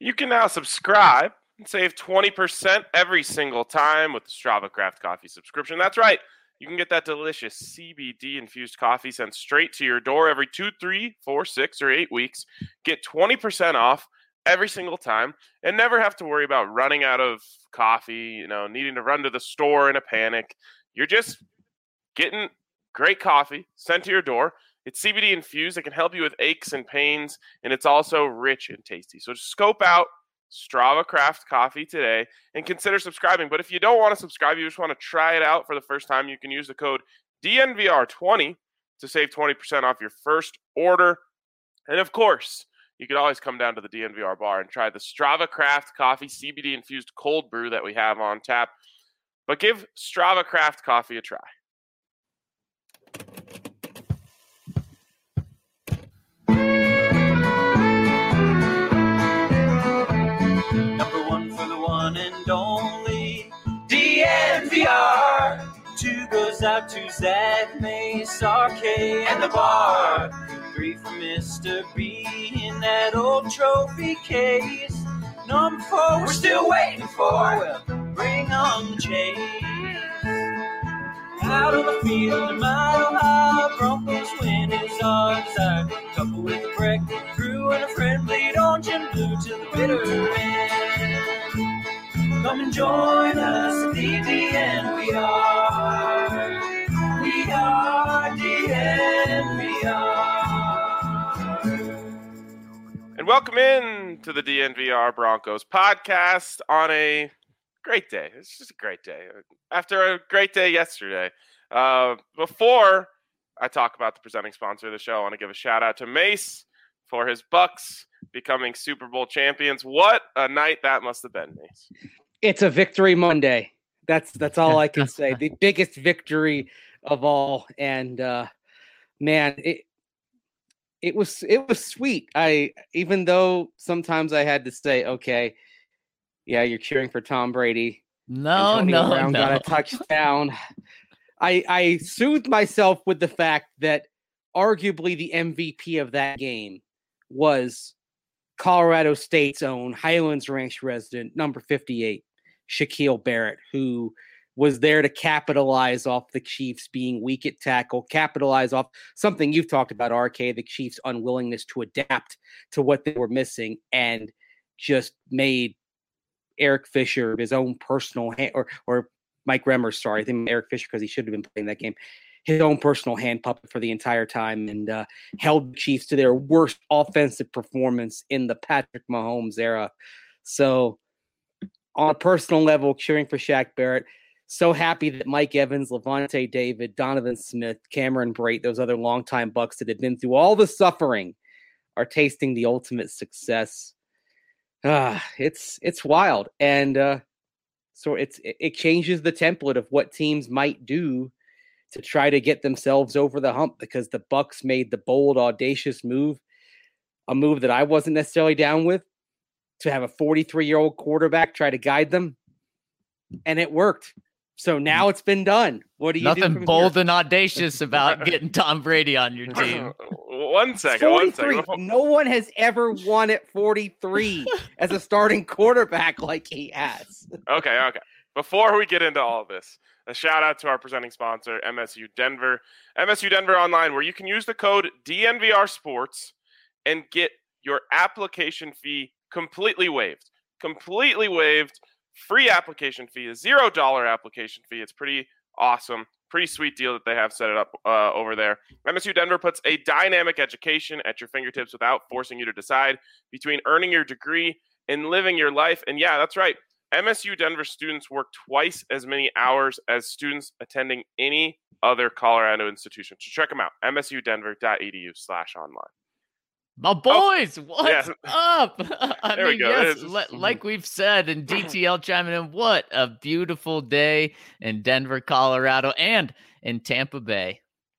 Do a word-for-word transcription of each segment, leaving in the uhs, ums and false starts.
You can now subscribe and save twenty percent every single time with the Strava Craft Coffee subscription. That's right. You can get that delicious C B D-infused coffee sent straight to your door every two, three, four, six, or eight weeks. Get twenty percent off every single time and never have to worry about running out of coffee, you know, needing to run to the store in a panic. You're just getting great coffee sent to your door. It's C B D infused. It can help you with aches and pains, and it's also rich and tasty. So scope out Strava Craft Coffee today and consider subscribing. But if you don't want to subscribe, you just want to try it out for the first time, you can use the code D N V R twenty to save twenty percent off your first order. And of course, you could always come down to the D N V R bar and try the Strava Craft Coffee C B D infused cold brew that we have on tap. But give Strava Craft Coffee a try. Number one for the one and only D N V R. Two goes out to Zach Mace, R K, and the bar. Three for Mister B in that old trophy case. Number four, we're still waiting for. Well, bring on the chase. Out on the field, a mile high, Broncos win is our desire. Couple with a break, crew and a friend, bleed orange and blue to the bitter end. Come and join us at the D N V R. We are D N V R. And welcome in to the D N V R Broncos podcast on a great day. It's just a great day. After a great day yesterday. Uh, before I talk about the presenting sponsor of the show, I want to give a shout out to Mace for his Bucks becoming Super Bowl champions. What a night that must have been, Mace. It's a victory Monday. That's that's all I can say. The biggest victory of all. And uh, man, it it was it was sweet. I even though sometimes I had to say, okay, yeah, you're cheering for Tom Brady. No, Antonio no, Brown no. got a touchdown. I I soothed myself with the fact that arguably the M V P of that game was Colorado State's own Highlands Ranch resident, number fifty-eight, Shaquille Barrett, who was there to capitalize off the Chiefs being weak at tackle, capitalize off something you've talked about, R K, the Chiefs' unwillingness to adapt to what they were missing, and just made Eric Fisher his own personal hand, or or Mike Remmers, sorry, I think Eric Fisher, because he should have been playing that game, his own personal hand puppet for the entire time, and uh, held the Chiefs to their worst offensive performance in the Patrick Mahomes era. So on a personal level, cheering for Shaq Barrett, so happy that Mike Evans, Levante David, Donovan Smith, Cameron Brate, those other longtime Bucks that had been through all the suffering are tasting the ultimate success. Uh, it's it's wild. And uh, so it's it changes the template of what teams might do to try to get themselves over the hump, because the Bucks made the bold, audacious move, a move that I wasn't necessarily down with, to have a forty-three-year-old quarterback try to guide them, and it worked. So now it's been done. What do you Nothing do from bold here? and audacious about getting Tom Brady on your team. One second, one second. No one has ever won at forty-three as a starting quarterback like he has. Okay, okay. Before we get into all of this, a shout out to our presenting sponsor, M S U Denver. M S U Denver Online, where you can use the code D N V R Sports and get your application fee completely waived. Completely waived. Free application fee, a zero dollar application fee. It's pretty awesome. Pretty sweet deal that they have set it up uh, over there. M S U Denver puts a dynamic education at your fingertips without forcing you to decide between earning your degree and living your life. And yeah, that's right. M S U Denver students work twice as many hours as students attending any other Colorado institution. So check them out, m s u denver dot e d u slash online. My boys, oh, what's yeah. up? I there mean, we go. yes, just, le- like we've said, and D T L chiming in, what a beautiful day in Denver, Colorado, and in Tampa Bay.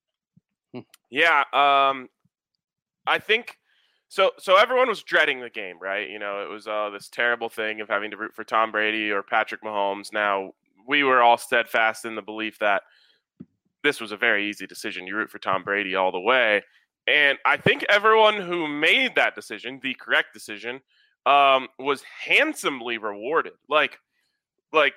Yeah, um, I think so. So everyone was dreading the game, right? You know, it was uh, this terrible thing of having to root for Tom Brady or Patrick Mahomes. Now, we were all steadfast in the belief that this was a very easy decision. You root for Tom Brady all the way. And I think everyone who made that decision, the correct decision, um, was handsomely rewarded. Like, like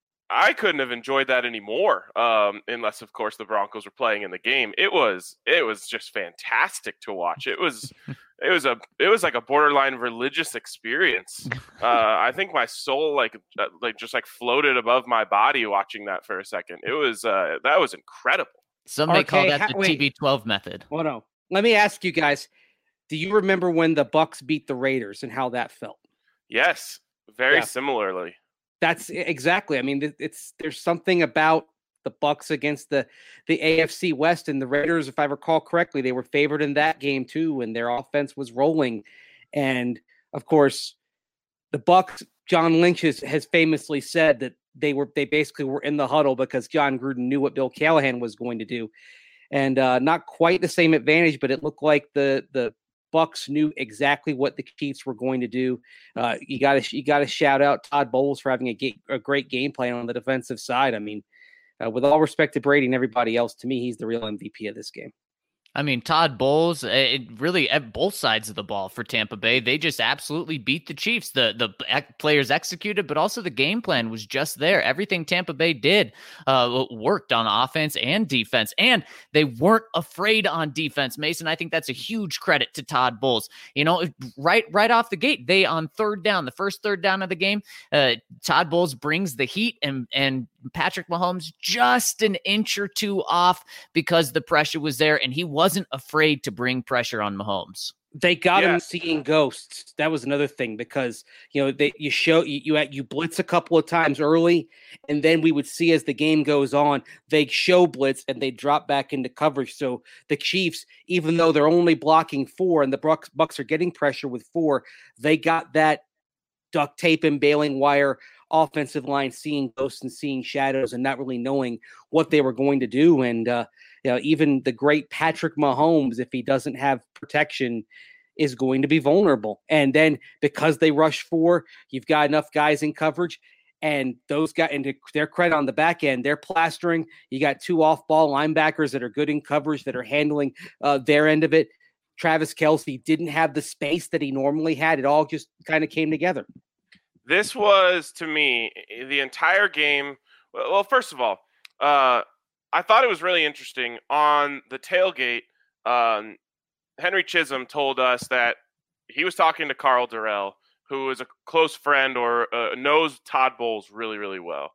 I couldn't have enjoyed that anymore, um, unless, of course, the Broncos were playing in the game. It was, it was just fantastic to watch. It was, it was a, it was like a borderline religious experience. Uh, I think my soul, like, uh, like just like floated above my body watching that for a second. It was, uh, that was incredible. Some may call Okay, that ha- the wait. T B twelve method. Well, no. Let me ask you guys, do you remember when the Bucks beat the Raiders and how that felt? Yes, very Yeah. similarly. That's exactly. I mean, it's there's something about the Bucks against the the A F C West, and the Raiders, if I recall correctly, they were favored in that game too, and their offense was rolling. And of course, the Bucks, John Lynch has, has famously said that they were they basically were in the huddle because John Gruden knew what Bill Callahan was going to do, and uh, not quite the same advantage, but it looked like the the Bucks knew exactly what the Chiefs were going to do. Uh, you got to you got to shout out Todd Bowles for having a, ga- a great game plan on the defensive side. I mean, uh, with all respect to Brady and everybody else, to me, he's the real M V P of this game. I mean, Todd Bowles, it really at both sides of the ball for Tampa Bay. They just absolutely beat the Chiefs. The the players executed, but also the game plan was just there. Everything Tampa Bay did uh, worked on offense and defense, and they weren't afraid on defense. Mason, I think that's a huge credit to Todd Bowles. You know, right right off the gate, they on third down, the first third down of the game, uh, Todd Bowles brings the heat, and and Patrick Mahomes just an inch or two off because the pressure was there, and he wasn't afraid to bring pressure on Mahomes. They got Yeah. him seeing ghosts. That was another thing because, you know, they you show you you, you blitz a couple of times early, and then we would see as the game goes on, they show blitz and they drop back into coverage. So the Chiefs, even though they're only blocking four and the Bucks, Bucks are getting pressure with four, they got that duct tape and baling wire offensive line seeing ghosts and seeing shadows and not really knowing what they were going to do. And, uh, you know, even the great Patrick Mahomes, if he doesn't have protection, is going to be vulnerable. And then because they rush four, you've got enough guys in coverage, and those guys, and to their credit on the back end, they're plastering. You got two off-ball linebackers that are good in coverage, that are handling uh, their end of it. Travis Kelce didn't have the space that he normally had. It all just kind of came together. This was, to me, the entire game. Well, first of all, uh, I thought it was really interesting. On the tailgate, um, Henry Chisholm told us that he was talking to Carl Durrell, who is a close friend or uh, knows Todd Bowles really, really well.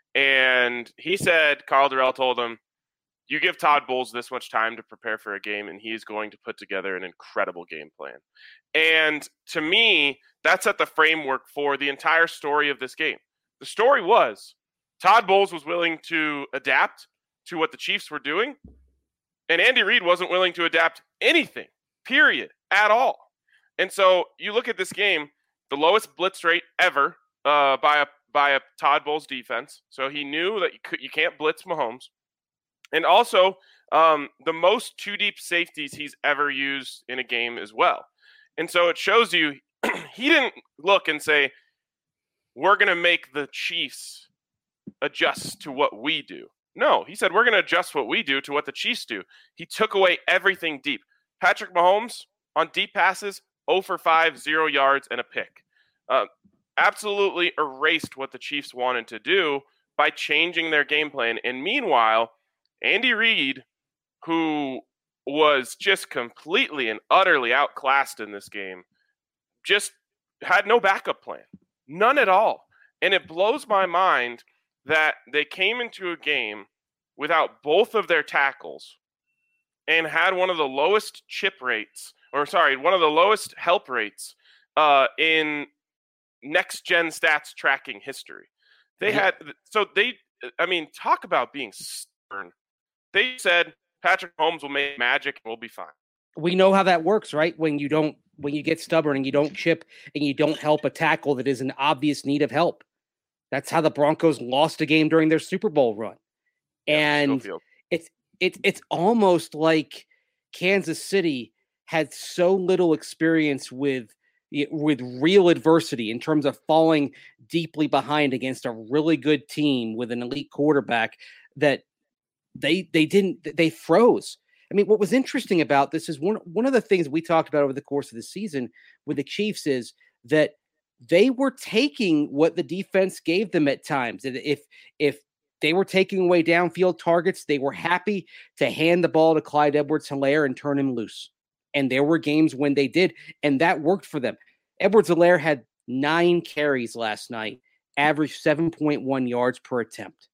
And he said, Carl Durrell told him, you give Todd Bowles this much time to prepare for a game, and he's going to put together an incredible game plan. And to me, that set the framework for the entire story of this game. The story was Todd Bowles was willing to adapt to what the Chiefs were doing, and Andy Reid wasn't willing to adapt anything, period, at all. And so you look at this game, the lowest blitz rate ever uh, by a by a Todd Bowles defense. So he knew that you could, you can't blitz Mahomes. And also, um, the most two deep safeties he's ever used in a game as well. And so it shows you he didn't look and say, we're going to make the Chiefs adjust to what we do. No, he said, we're going to adjust what we do to what the Chiefs do. He took away everything deep. Patrick Mahomes on deep passes, zero for five, zero yards, and a pick. Uh, absolutely erased what the Chiefs wanted to do by changing their game plan. And meanwhile, Andy Reid, who was just completely and utterly outclassed in this game, just had no backup plan. None at all. And it blows my mind that they came into a game without both of their tackles and had one of the lowest chip rates, or sorry, one of the lowest help rates uh, in next-gen stats tracking history. They had, so they, I mean, talk about being stubborn. They said Patrick Mahomes will make magic and we'll be fine. We know how that works, right? When you don't, when you get stubborn and you don't chip and you don't help a tackle that is in obvious need of help. That's how the Broncos lost a game during their Super Bowl run. Yeah, and Schofield. it's it's it's almost like Kansas City had so little experience with with real adversity in terms of falling deeply behind against a really good team with an elite quarterback that they they didn't they froze. I mean, what was interesting about this is one one of the things we talked about over the course of the season with the Chiefs is that they were taking what the defense gave them at times. And if if they were taking away downfield targets, they were happy to hand the ball to Clyde Edwards-Helaire and turn him loose. And there were games when they did, and that worked for them. Edwards-Helaire had nine carries last night, averaged seven point one yards per attempt.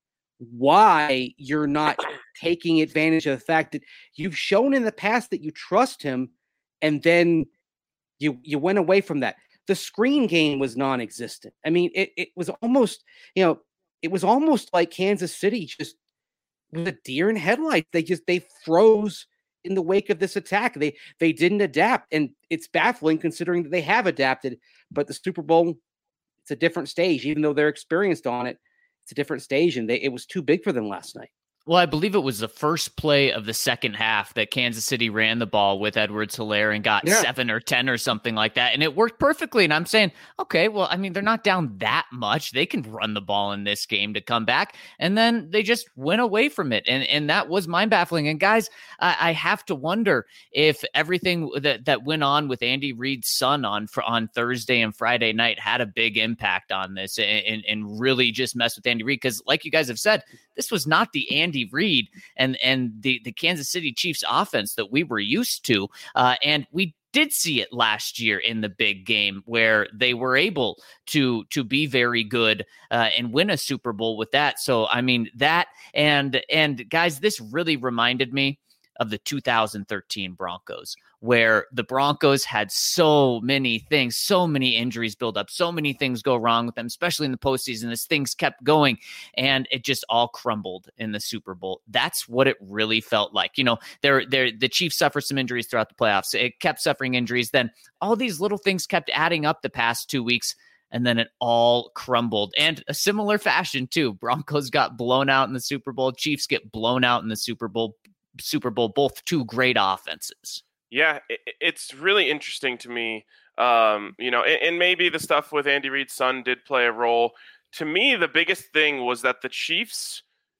Why you're not taking advantage of the fact that you've shown in the past that you trust him, and then you you went away from that. The screen game was non-existent. I mean, it, it was almost, you know, it was almost like Kansas City just was a deer in headlights. They just they froze in the wake of this attack. They they didn't adapt, and it's baffling considering that they have adapted. But the Super Bowl, it's a different stage, even though they're experienced on it. It's a different stage, and they, it was too big for them last night. Well, I believe it was the first play of the second half that Kansas City ran the ball with Edwards-Helaire and got yeah. seven or ten or something like that. And it worked perfectly. And I'm saying, okay, well, I mean, they're not down that much. They can run the ball in this game to come back. And then they just went away from it. And and that was mind baffling. And guys, I, I have to wonder if everything that, that went on with Andy Reid's son on for, on Thursday and Friday night had a big impact on this and, and really just messed with Andy Reid. Because like you guys have said, this was not the Andy Reid and and the, the Kansas City Chiefs offense that we were used to. Uh, and we did see it last year in the big game where they were able to to be very good uh, and win a Super Bowl with that. So, I mean, that and and guys, this really reminded me of the two thousand thirteen Broncos, where the Broncos had so many things, so many injuries build up, so many things go wrong with them, especially in the postseason as things kept going, and it just all crumbled in the Super Bowl. That's what it really felt like. You know, they're, they're, the Chiefs suffered some injuries throughout the playoffs. It kept suffering injuries. Then all these little things kept adding up the past two weeks, and then it all crumbled. And a similar fashion, too. Broncos got blown out in the Super Bowl. Chiefs get blown out in the Super Bowl. Super Bowl, both two great offenses. Yeah, it, it's really interesting to me. Um, you know, and, and maybe the stuff with Andy Reid's son did play a role. To me, the biggest thing was that the Chiefs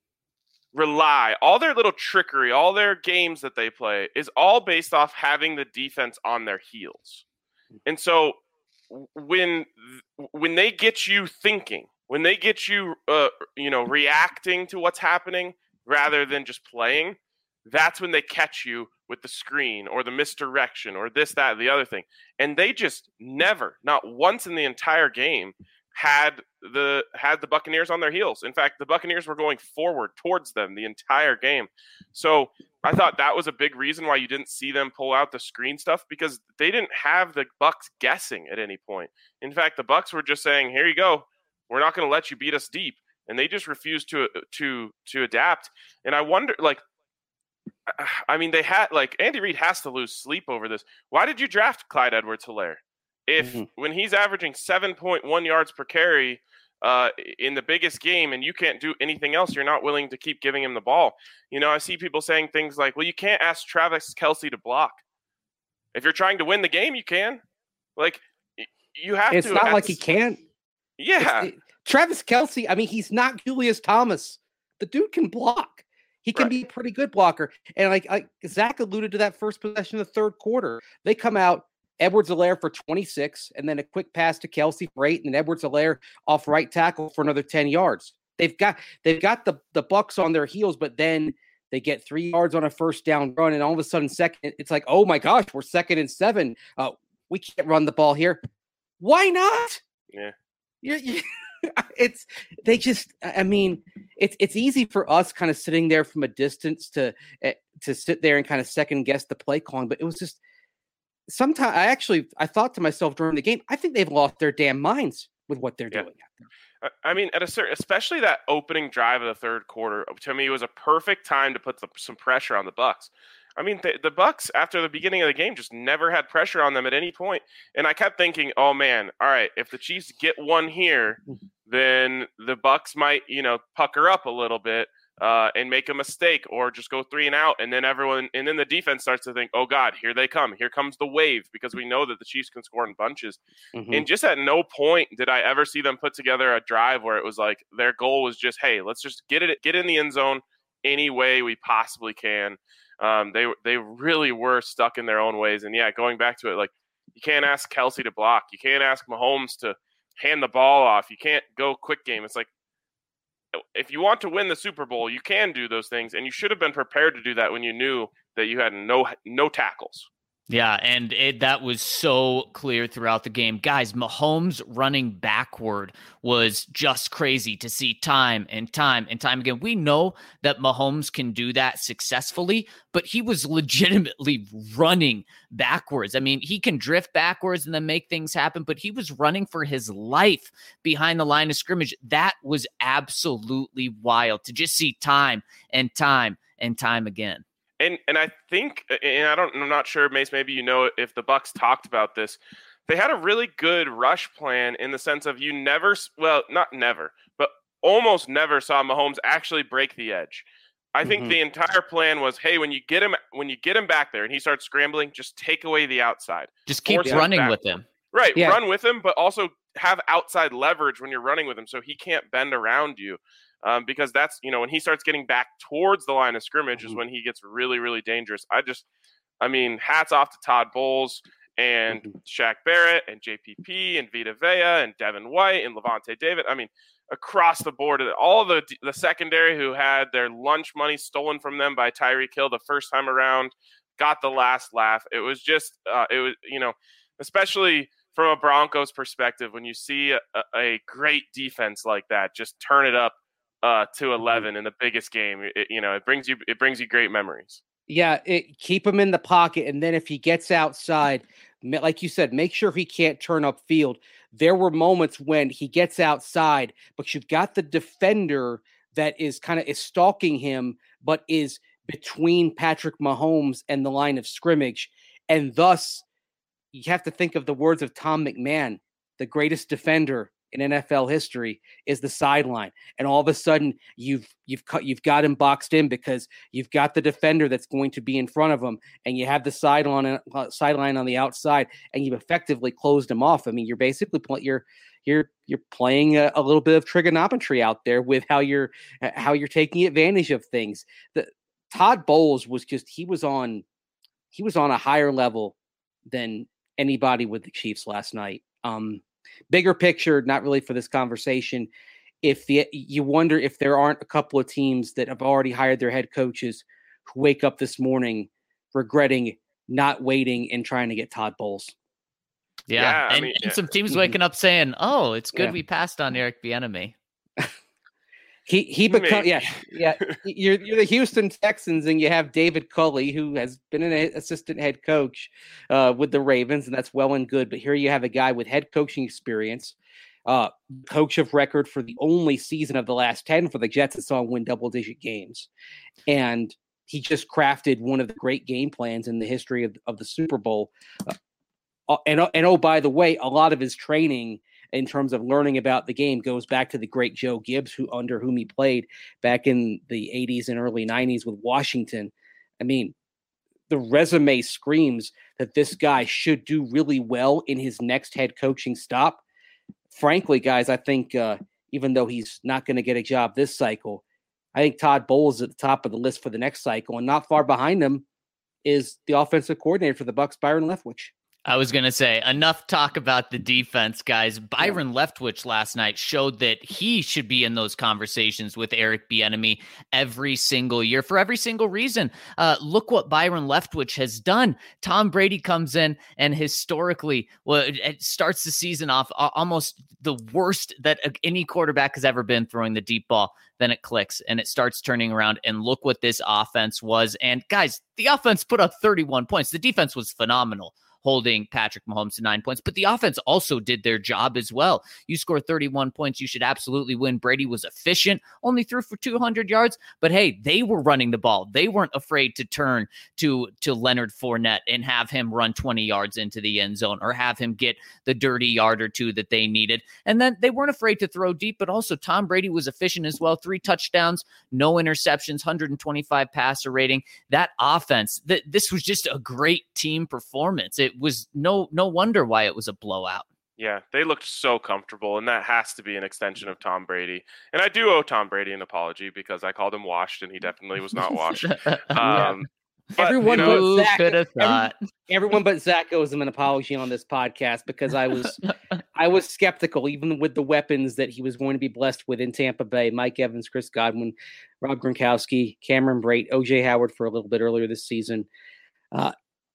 rely, all their little trickery, all their games that they play is all based off having the defense on their heels. And so when when they get you thinking, when they get you, uh, you know, reacting to what's happening rather than just playing, that's when they catch you with the screen or the misdirection or this, that, the other thing. And they just never, not once in the entire game, had the had the Buccaneers on their heels. In fact, the Buccaneers were going forward towards them the entire game. So I thought that was a big reason why you didn't see them pull out the screen stuff, because they didn't have the Bucs guessing at any point. In fact, the Bucs were just saying, here you go. We're not going to let you beat us deep. And they just refused to to to adapt. And I wonder, like, I mean, they had, like, Andy Reid has to lose sleep over this. Why did you draft Clyde Edwards-Helaire? If mm-hmm. when he's averaging seven point one yards per carry uh, in the biggest game and you can't do anything else, you're not willing to keep giving him the ball. You know, I see people saying things like, well, you can't ask Travis Kelce to block. If you're trying to win the game, you can. Like, you have it's to. It's not like he can't. Yeah. It, Travis Kelce, I mean, he's not Julius Thomas. The dude can block. He can right. be a pretty good blocker. And like, like Zach alluded to that first possession of the third quarter. They come out, Edwards-Helaire for twenty-six, and then a quick pass to Kelce for eight, and then Edwards-Helaire off right tackle for another ten yards. They've got they've got the, the Bucs on their heels, but then they get three yards on a first down run, and all of a sudden, second, it's like, oh my gosh, we're second and seven. Uh, we can't run the ball here. Why not? Yeah. You're, you're It's they just I mean it's it's easy for us kind of sitting there from a distance to uh, to sit there and kind of second guess the play calling, but it was just sometimes I actually I thought to myself during the game, I think they've lost their damn minds with what they're yeah. doing. I mean, at a certain, especially that opening drive of the third quarter, to me, it was a perfect time to put the, some pressure on the Bucs. I mean, the, the Bucs, after the beginning of the game, just never had pressure on them at any point. And I kept thinking, oh, man, all right, if the Chiefs get one here, then the Bucs might, you know, pucker up a little bit uh, and make a mistake or just go three and out. And then everyone – and then the defense starts to think, oh, God, here they come. Here comes the wave, because we know that the Chiefs can score in bunches. Mm-hmm. And just at no point did I ever see them put together a drive where it was like their goal was just, hey, let's just get it, get in the end zone any way we possibly can. Um, they they really were stuck in their own ways. And, yeah, going back to it, like, You can't ask Kelsey to block. You can't ask Mahomes to hand the ball off. You can't go quick game. It's like, if you want to win the Super Bowl, you can do those things, and you should have been prepared to do that when you knew that you had no no tackles. Yeah, and it, that was so clear throughout the game. Guys, Mahomes running backward was just crazy to see time and time and time again. We know that Mahomes can do that successfully, but he was legitimately running backwards. I mean, he can drift backwards and then make things happen, but he was running for his life behind the line of scrimmage. That was absolutely wild to just see time and time and time again. And and I think, and I don't, I'm not sure, Mace, maybe you know if the Bucs talked about this. They had a really good rush plan in the sense of you never, well, not never, but almost never saw Mahomes actually break the edge. I think mm-hmm. the entire plan was, hey, when you get him, when you get him back there and he starts scrambling, just take away the outside. Just keep running him with him. Right, yeah. Run with him, but also have outside leverage when you're running with him, so he can't bend around you. Um, because that's, you know, when he starts getting back towards the line of scrimmage mm-hmm. is when he gets really, really dangerous. I just, I mean, hats off to Todd Bowles and mm-hmm. Shaq Barrett and J P P and Vita Vea and Devin White and Levante David. I mean, across the board, all the the secondary who had their lunch money stolen from them by Tyreek Hill the first time around got the last laugh. It was just, uh, it was, you know, especially from a Broncos perspective, when you see a, a great defense like that, just turn it up Uh, to eleven in the biggest game, it, you know, it brings you it brings you great memories. Yeah, it, keep him in the pocket, and then if he gets outside, like you said, make sure he can't turn upfield. There were moments when he gets outside, but you've got the defender that is kind of is stalking him, but is between Patrick Mahomes and the line of scrimmage, and thus you have to think of the words of Tom McMahon, the greatest defender in N F L history is the sideline, and all of a sudden you've you've cut you've got him boxed in because you've got the defender that's going to be in front of him, and you have the sideline uh, sideline on the outside, and you've effectively closed him off. I mean, you're basically you're you're you're playing a, a little bit of trigonometry out there with how you're how you're taking advantage of things. The Todd Bowles was just he was on he was on a higher level than anybody with the Chiefs last night. Um, Bigger picture, not really for this conversation. If the you wonder if there aren't a couple of teams that have already hired their head coaches who wake up this morning regretting not waiting and trying to get Todd Bowles. Yeah, yeah and, mean, and yeah. some teams waking up saying, "Oh, it's good yeah. we passed on Eric Bieniemy." He he become yeah yeah you're you're the Houston Texans and you have David Culley, who has been an assistant head coach uh, with the Ravens, and that's well and good. But here you have a guy with head coaching experience, uh, coach of record for the only season of the last ten for the Jets that saw him win double digit games, and he just crafted one of the great game plans in the history of, of the Super Bowl. Uh, and and oh, by the way, a lot of his training in terms of learning about the game goes back to the great Joe Gibbs, who under whom he played back in the eighties and early nineties with Washington. I mean, the resume screams that this guy should do really well in his next head coaching stop. Frankly, guys, I think uh, even though he's not going to get a job this cycle, I think Todd Bowles is at the top of the list for the next cycle, and not far behind him is the offensive coordinator for the Bucs, Byron Leftwich. I was going to say, enough talk about the defense, guys. Byron yeah. Leftwich last night showed that he should be in those conversations with Eric Bieniemy every single year for every single reason. Uh, look what Byron Leftwich has done. Tom Brady comes in and historically, well, it, it starts the season off uh, almost the worst that any quarterback has ever been throwing the deep ball. Then it clicks and it starts turning around, and look what this offense was. And guys, the offense put up thirty-one points. The defense was phenomenal, holding Patrick Mahomes to nine points, but the offense also did their job as well. You score thirty-one points, you should absolutely win. Brady was efficient, only threw for two hundred yards, but hey, they were running the ball. They weren't afraid to turn to, to Leonard Fournette and have him run twenty yards into the end zone or have him get the dirty yard or two that they needed. And then they weren't afraid to throw deep, but also Tom Brady was efficient as well. Three touchdowns, no interceptions, one hundred twenty-five passer rating. That offense, th- this was just a great team performance. It was no no wonder why it was a blowout. Yeah, they looked so comfortable, and that has to be an extension of Tom Brady. And I do owe Tom Brady an apology because I called him washed, and he definitely was not washed. um, But, everyone you know, but Who Zach, could have every- thought? everyone but Zach owes him an apology on this podcast because I was I was skeptical, even with the weapons that he was going to be blessed with in Tampa Bay. Mike Evans, Chris Godwin, Rob Gronkowski, Cameron Brate, O J Howard for a little bit earlier this season. Uh,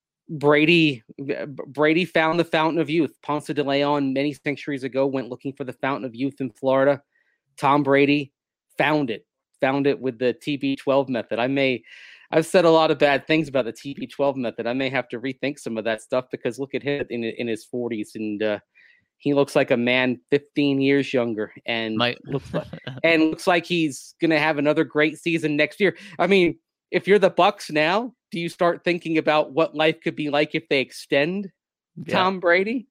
Brady Brady found the fountain of youth. Ponce de Leon many centuries ago went looking for the fountain of youth in Florida. Tom Brady found it, found it with the T B twelve method. I may, I've said a lot of bad things about the T B twelve method. I may have to rethink some of that stuff because look at him in in his forties, and uh, he looks like a man fifteen years younger, and My- looks like and looks like he's gonna have another great season next year. I mean, if you're the Bucks now, do you start thinking about what life could be like if they extend Yeah. Tom Brady?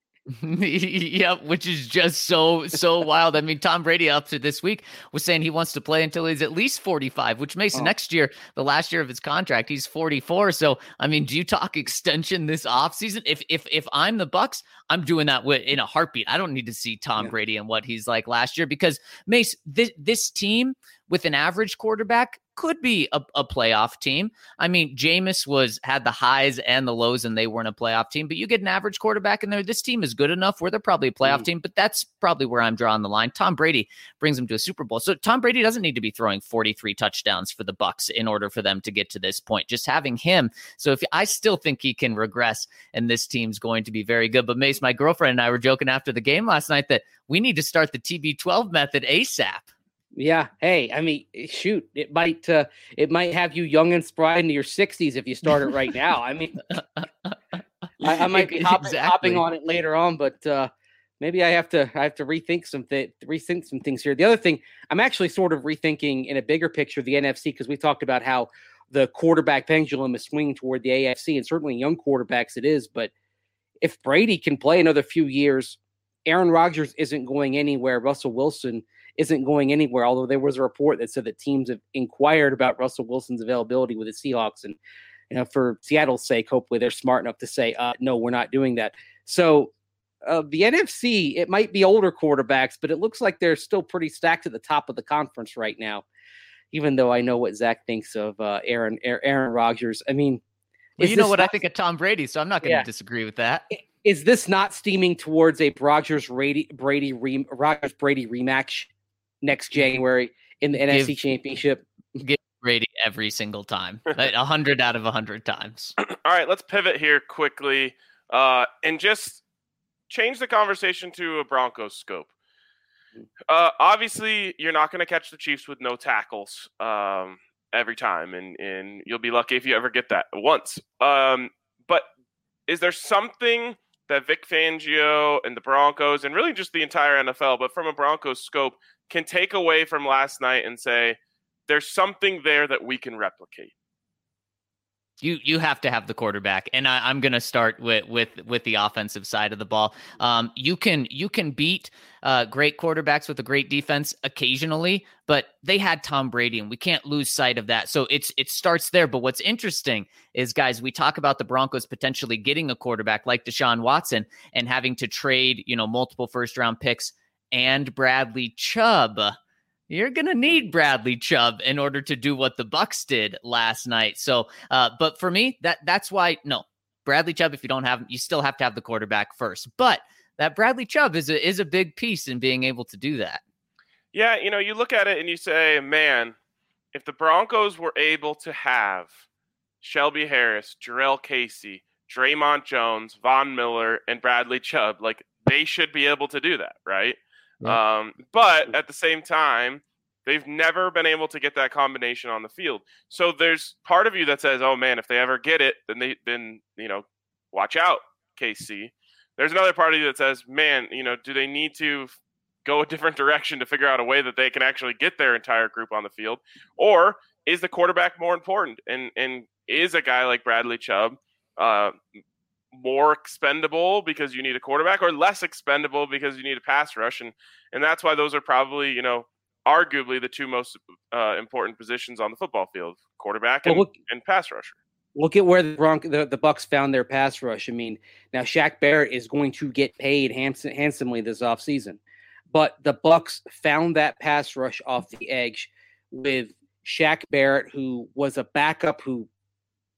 Yep, which is just so so wild. I mean, Tom Brady up to this week was saying he wants to play until he's at least forty-five, which makes Oh. next year the last year of his contract. He's forty-four. So, I mean, do you talk extension this offseason? If if if I'm the Bucks, I'm doing that with, in a heartbeat. I don't need to see Tom Yeah. Brady and what he's like last year because Mace, this this team with an average quarterback could be a, a playoff team. I mean, Jameis was had the highs and the lows, and they weren't a playoff team. But you get an average quarterback in there. This team is good enough where they're probably a playoff Mm. team. But that's probably where I'm drawing the line. Tom Brady brings them to a Super Bowl, so Tom Brady doesn't need to be throwing forty-three touchdowns for the Bucks in order for them to get to this point. Just having him. So if I still think he can regress, and this team's going to be very good. But Mace, my girlfriend and I were joking after the game last night that we need to start the T B twelve method ASAP. Yeah. Hey, I mean, shoot, it might uh, it might have you young and spry into your sixties if you start it right now. I mean, I, I might be hopping, Exactly. hopping on it later on, but uh, maybe I have to I have to rethink some th- rethink some things here. The other thing, I'm actually sort of rethinking in a bigger picture the N F C because we talked about how the quarterback pendulum is swinging toward the A F C, and certainly young quarterbacks it is. But if Brady can play another few years, Aaron Rodgers isn't going anywhere. Russell Wilson isn't going anywhere, although there was a report that said that teams have inquired about Russell Wilson's availability with the Seahawks. And, you know, for Seattle's sake, hopefully they're smart enough to say, uh, no, we're not doing that. So uh, the N F C, it might be older quarterbacks, but it looks like they're still pretty stacked at the top of the conference right now, even though I know what Zach thinks of uh, Aaron Aaron Rodgers. I mean, Well, is you know this what I not- think of Tom Brady, so I'm not going to Yeah. disagree with that. Is this not steaming towards a Rodgers Brady Brady re, Rodgers Brady rematch next January in the N F C Give- Championship? Give Brady every single time, like a hundred out of a hundred times. All right, let's pivot here quickly uh, and just change the conversation to a Broncos scope. Uh, obviously, you're not going to catch the Chiefs with no tackles um, every time, and, and you'll be lucky if you ever get that once. Um, but is there something that Vic Fangio and the Broncos, and really just the entire N F L, but from a Broncos scope, can take away from last night and say, there's something there that we can replicate? You you have to have the quarterback, and I, I'm going to start with with with the offensive side of the ball. Um, you can you can beat uh, great quarterbacks with a great defense occasionally, but they had Tom Brady, and we can't lose sight of that. So it's it starts there. But what's interesting is, guys, we talk about the Broncos potentially getting a quarterback like Deshaun Watson and having to trade, you know, multiple first round picks and Bradley Chubb. You're going to need Bradley Chubb in order to do what the Bucks did last night. So, uh, but for me, that that's why, no, Bradley Chubb, if you don't have him, you still have to have the quarterback first. But that Bradley Chubb is a, is a big piece in being able to do that. Yeah, you know, you look at it and you say, man, if the Broncos were able to have Shelby Harris, Jarrell Casey, Draymond Jones, Von Miller, and Bradley Chubb, like, they should be able to do that, right? Yeah. Um, but at the same time, they've never been able to get that combination on the field. So there's part of you that says, oh man, if they ever get it, then they, then, you know, watch out, K C. There's another part of you that says, man, you know, do they need to go a different direction to figure out a way that they can actually get their entire group on the field? Or is the quarterback more important? And, and is a guy like Bradley Chubb, uh, more expendable because you need a quarterback, or less expendable because you need a pass rush? And and that's why those are probably, you know, arguably the two most uh, important positions on the football field: quarterback and, Well, look- and pass rusher. Look at where the Bronc the, the Bucks found their pass rush. I mean, now Shaq Barrett is going to get paid handsome, handsomely this offseason. But the Bucks found that pass rush off the edge with Shaq Barrett, who was a backup who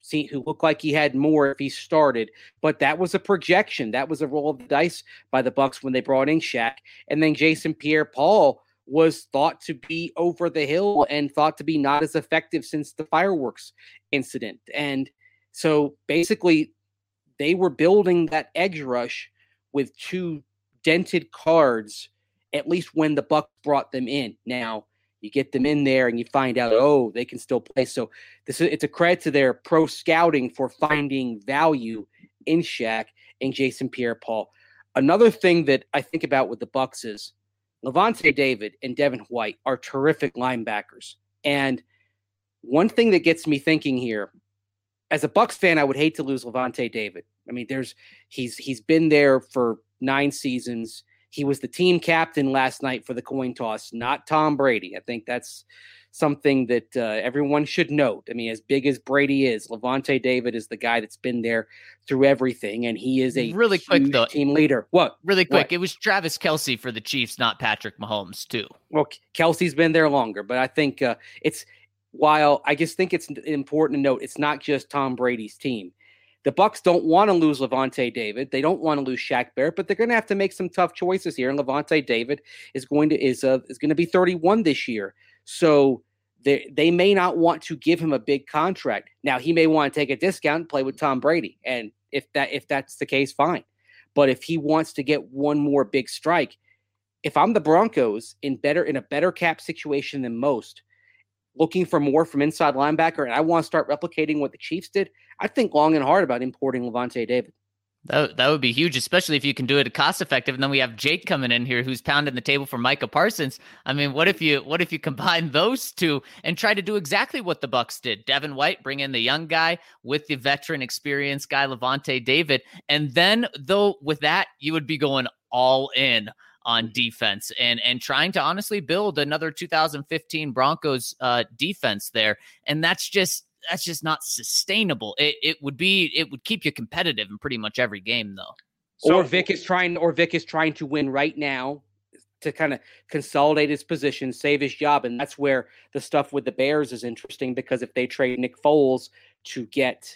see, who looked like he had more if he started, but that was a projection. That was a roll of the dice by the Bucs when they brought in Shaq. And then Jason Pierre-Paul was thought to be over the hill and thought to be not as effective since the fireworks incident. And so basically they were building that edge rush with two dented cards, at least when the Bucs brought them in. Now you get them in there and you find out, oh, they can still play. So this is, it's a credit to their pro scouting for finding value in Shaq and Jason Pierre-Paul. Another thing that I think about with the Bucs is Lavonte David and Devin White are terrific linebackers. And one thing that gets me thinking here, as a Bucs fan, I would hate to lose Lavonte David. I mean, there's he's he's been there for nine seasons. He was the team captain last night for the coin toss, not Tom Brady. I think that's something that uh, everyone should note. I mean, as big as Brady is, Lavonte David is the guy that's been there through everything, and he is a really quick though team leader. What? Really quick, what? It was Travis Kelce for the Chiefs, not Patrick Mahomes, too. Well, Kelsey's been there longer, but I think uh, it's while I just think it's important to note it's not just Tom Brady's team. The Bucs don't want to lose Lavonte David. They don't want to lose Shaq Barrett, but they're going to have to make some tough choices here. And Lavonte David is going to is uh, is going to be thirty-one this year, so they they may not want to give him a big contract. Now he may want to take a discount and play with Tom Brady, and if that if that's the case, fine. But if he wants to get one more big strike, if I'm the Broncos in better in a better cap situation than most, looking for more from inside linebacker, and I want to start replicating what the Chiefs did, I think long and hard about importing Lavonte David. That, that would be huge, especially if you can do it cost effective. And then we have Jake coming in here who's pounding the table for Micah Parsons. I mean, what if you what if you combine those two and try to do exactly what the Bucs did? Devin White, bring in the young guy with the veteran experienced guy, Lavonte David. And then, though, with that, you would be going all in on defense and and trying to honestly build another two thousand fifteen Broncos uh, defense there. And that's just that's just not sustainable. It it would be it would keep you competitive in pretty much every game, though. So, or Vic is trying or Vic is trying to win right now to kind of consolidate his position, save his job. And that's where the stuff with the Bears is interesting, because if they trade Nick Foles to get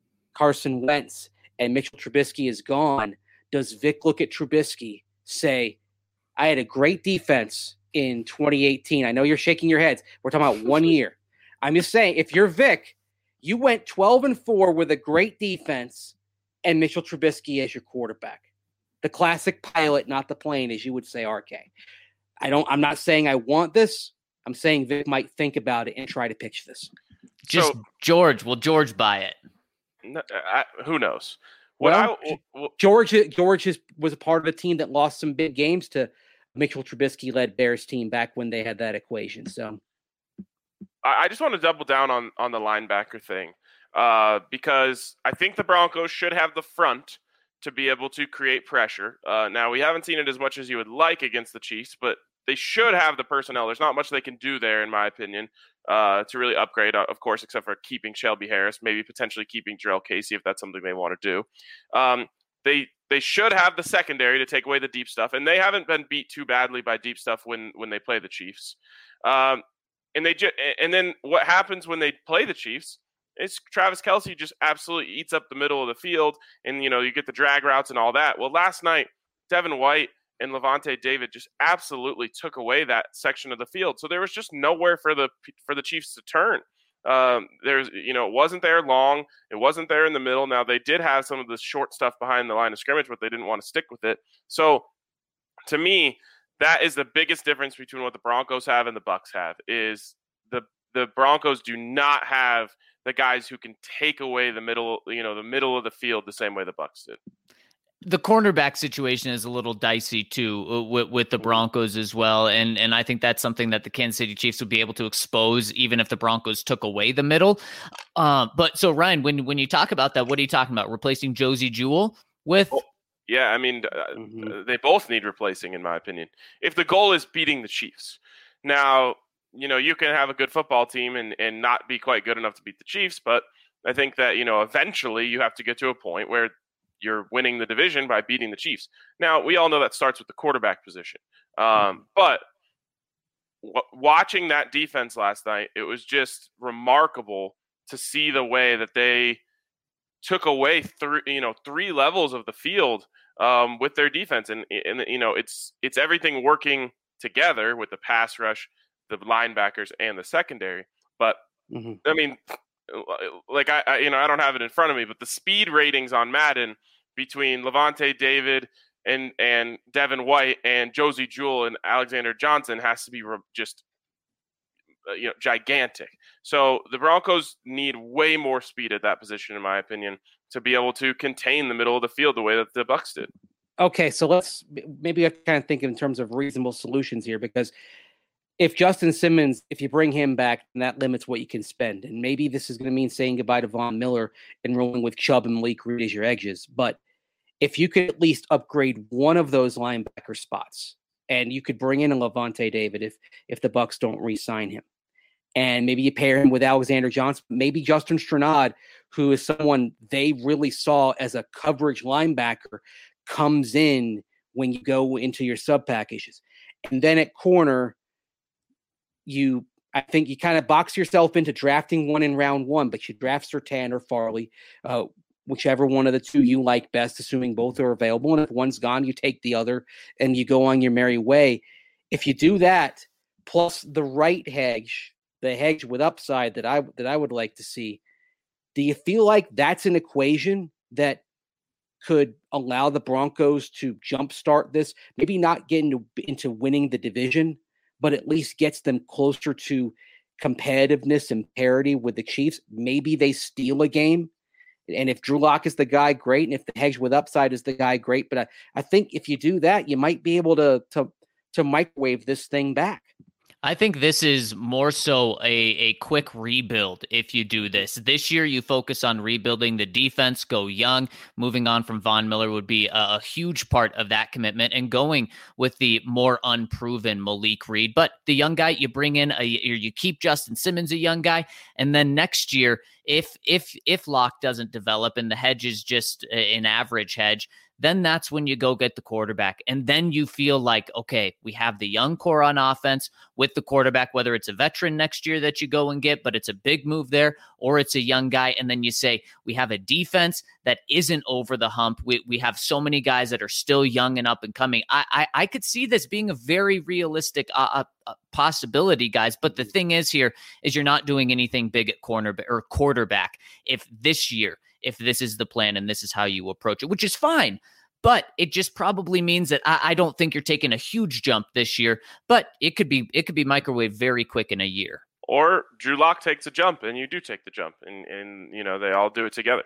Carson Wentz and Mitchell Trubisky is gone, does Vic look at Trubisky, say, I had a great defense in twenty eighteen. I know you're shaking your heads. We're talking about one year. I'm just saying, if you're Vic, you went twelve and four with a great defense and Mitchell Trubisky as your quarterback. The classic pilot, not the plane, as you would say, R K. I don't, I'm not saying I want this. I'm saying Vic might think about it and try to pitch this. Just so, George, will George buy it? No, I, who knows? What well, I, well, George, George is, was a part of a team that lost some big games to Mitchell Trubisky-led Bears team back when they had that equation. So I just want to double down on, on the linebacker thing uh, because I think the Broncos should have the front to be able to create pressure. Uh, now, we haven't seen it as much as you would like against the Chiefs, but they should have the personnel. There's not much they can do there, in my opinion, uh, to really upgrade, of course, except for keeping Shelby Harris, maybe potentially keeping Jarrell Casey if that's something they want to do. Um, they they should have the secondary to take away the deep stuff, and they haven't been beat too badly by deep stuff when when they play the Chiefs. Um, and they ju- and then what happens when they play the Chiefs? It's Travis Kelce just absolutely eats up the middle of the field, and you know you get the drag routes and all that. Well, last night, Devin White and Lavonte David just absolutely took away that section of the field. So there was just nowhere for the for the Chiefs to turn. Um, there's, you know, it wasn't there long. It wasn't there in the middle. Now they did have some of the short stuff behind the line of scrimmage, but they didn't want to stick with it. So to me, that is the biggest difference between what the Broncos have and the Bucs have. Is the the Broncos do not have the guys who can take away the middle, you know, the middle of the field the same way the Bucs did. The cornerback situation is a little dicey too uh, with, with the Broncos as well. And and I think that's something that the Kansas City Chiefs would be able to expose even if the Broncos took away the middle. Uh, but so Ryan, when, when you talk about that, what are you talking about? Replacing Josie Jewell with? Oh, yeah, I mean, uh, Mhm. they both need replacing in my opinion. If the goal is beating the Chiefs. Now, you know, you can have a good football team and, and not be quite good enough to beat the Chiefs. But I think that, you know, eventually you have to get to a point where you're winning the division by beating the Chiefs. Now, we all know that starts with the quarterback position. Um, but w- watching that defense last night, it was just remarkable to see the way that they took away three, you know, three levels of the field um, with their defense. And, and, you know, it's, it's everything working together with the pass rush, the linebackers, and the secondary. But mm-hmm. I mean, like I, I, you know, I don't have it in front of me, but the speed ratings on Madden between Levante David and, and Devin White and Josie Jewell and Alexander Johnson has to be just, uh, you know, gigantic. So the Broncos need way more speed at that position, in my opinion, to be able to contain the middle of the field the way that the Bucs did. Okay, so let's maybe I kind of think in terms of reasonable solutions here, because if Justin Simmons, if you bring him back, then that limits what you can spend. And maybe this is going to mean saying goodbye to Von Miller and rolling with Chubb and Malik Reed as your edges. But if you could at least upgrade one of those linebacker spots, and you could bring in a Levante David if if the Bucs don't re-sign him, and maybe you pair him with Alexander Johnson, maybe Justin Strnad, who is someone they really saw as a coverage linebacker, comes in when you go into your sub packages. And then at corner, you, I think you kind of box yourself into drafting one in round one, but you draft Surtain or Farley, uh, whichever one of the two you like best, assuming both are available. And if one's gone, you take the other and you go on your merry way. If you do that, plus the right hedge, the hedge with upside that I that I would like to see, do you feel like that's an equation that could allow the Broncos to jumpstart this? Maybe not get into, into winning the division, but at least gets them closer to competitiveness and parity with the Chiefs. Maybe they steal a game. And if Drew Lock is the guy, great. And if the hedge with upside is the guy, great. But I, I think if you do that, you might be able to, to, to microwave this thing back. I think this is more so a, a quick rebuild if you do this. This year, you focus on rebuilding the defense, go young. Moving on from Von Miller would be a, a huge part of that commitment, and going with the more unproven Malik Reed. But the young guy, you bring in, a, you keep Justin Simmons a young guy, and then next year, if if if Locke doesn't develop and the hedge is just an average hedge, then that's when you go get the quarterback. And then you feel like, okay, we have the young core on offense with the quarterback, whether it's a veteran next year that you go and get, but it's a big move there, or it's a young guy. And then you say, we have a defense that isn't over the hump. We we have so many guys that are still young and up and coming. I I, I could see this being a very realistic uh, uh, possibility, guys. But the thing is here is you're not doing anything big at corner or quarterback if this year, if this is the plan and this is how you approach it, which is fine. But it just probably means that I, I don't think you're taking a huge jump this year, but it could be it could be microwave very quick in a year. Or Drew Lock takes a jump and you do take the jump, and, and you know, they all do it together.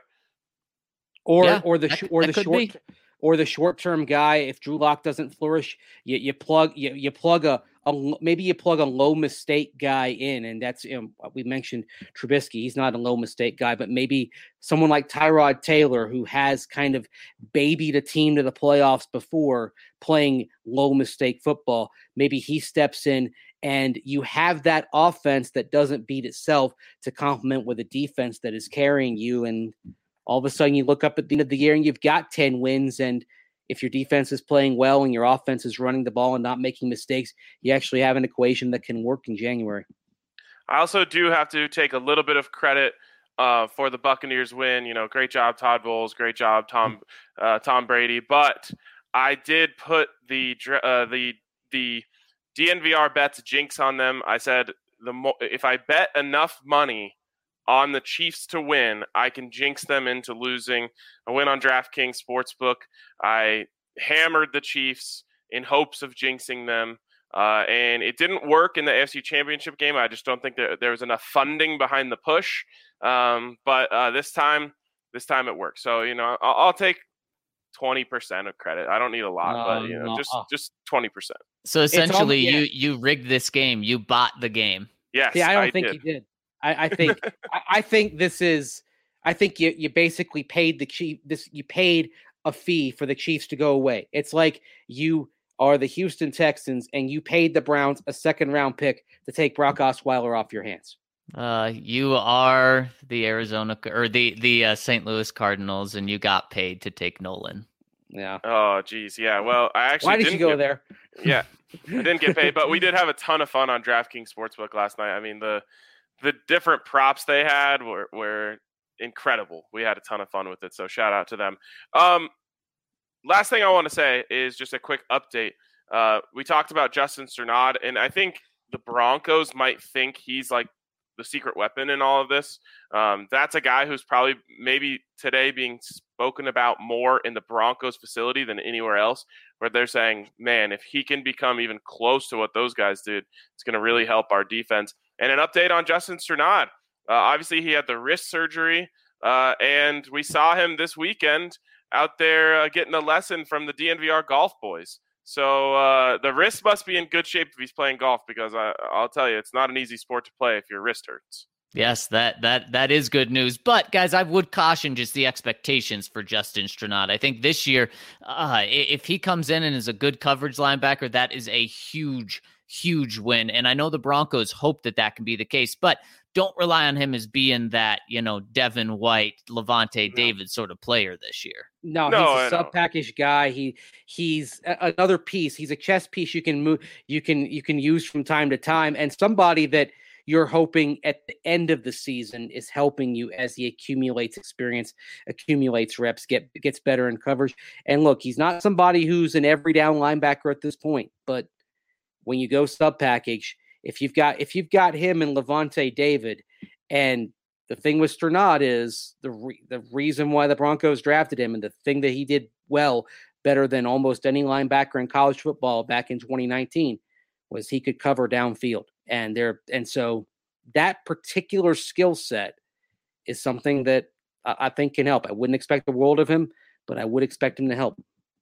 Or yeah, or the that, or that the short be. or the short term guy. If Drew Lock doesn't flourish, you you plug you you plug a, a maybe you plug a low mistake guy in, and that's, you know, we mentioned Trubisky. He's not a low mistake guy, but maybe someone like Tyrod Taylor, who has kind of babied a team to the playoffs before playing low mistake football. Maybe he steps in, and you have that offense that doesn't beat itself to complement with a defense that is carrying you. And all of a sudden you look up at the end of the year and you've got ten wins. And if your defense is playing well and your offense is running the ball and not making mistakes, you actually have an equation that can work in January. I also do have to take a little bit of credit uh, for the Buccaneers win. You know, great job, Todd Bowles. Great job, Tom uh, Tom Brady. But I did put the uh, the the D N V R bets jinx on them. I said the mo- if I bet enough money on the Chiefs to win, I can jinx them into losing. I went on DraftKings Sportsbook. I hammered the Chiefs in hopes of jinxing them. Uh, and it didn't work in the A F C Championship game. I just don't think that there was enough funding behind the push. Um, but uh, this time, this time it worked. So, you know, I'll, I'll take twenty percent of credit. I don't need a lot, no, but, you know, no. just just twenty percent. So essentially, all, yeah. you you rigged this game. You bought the game. Yes, yeah, I don't I think did. you did. I, I think I, I think this is. I think you you basically paid the Chief. This you paid a fee for the Chiefs to go away. It's like you are the Houston Texans and you paid the Browns a second round pick to take Brock Osweiler off your hands. Uh, you are the Arizona or the the uh, Saint Louis Cardinals, and you got paid to take Nolan. Yeah. Oh, geez. Yeah. Well, I actually. Why did didn't you go get, there? Yeah, I didn't get paid, but we did have a ton of fun on DraftKings Sportsbook last night. I mean, the the different props they had were, were incredible. We had a ton of fun with it, so shout out to them. Um, last thing I want to say is just a quick update. Uh, we talked about Justin Strnad, and I think the Broncos might think he's like the secret weapon in all of this. Um, that's a guy who's probably maybe today being spoken about more in the Broncos facility than anywhere else, where they're saying, man, if he can become even close to what those guys did, it's going to really help our defense. And an update on Justin Strnad. Uh, obviously, he had the wrist surgery, uh, and we saw him this weekend out there uh, getting a lesson from the D N V R golf boys. So uh, the wrist must be in good shape if he's playing golf, because I, I'll tell you, it's not an easy sport to play if your wrist hurts. Yes, that that that is good news. But guys, I would caution just the expectations for Justin Strnad. I think this year, uh, if he comes in and is a good coverage linebacker, that is a huge, huge win. And I know the Broncos hope that that can be the case, but don't rely on him as being that, you know, Devin White, Levante no. David sort of player this year. No, no he's a sub package guy. He he's a, another piece. He's a chess piece you can move, you can you can use from time to time, and somebody that you're hoping at the end of the season is helping you as he accumulates experience, accumulates reps, get gets better in coverage. And look, he's not somebody who's an every down linebacker at this point, but when you go sub package, if you've got if you've got him and Levante David, and the thing with Strnad is the re- the reason why the Broncos drafted him, and the thing that he did well, better than almost any linebacker in college football back in twenty nineteen, was he could cover downfield. And there, and so that particular skill set is something that I, I think can help. I wouldn't expect the world of him, but I would expect him to help.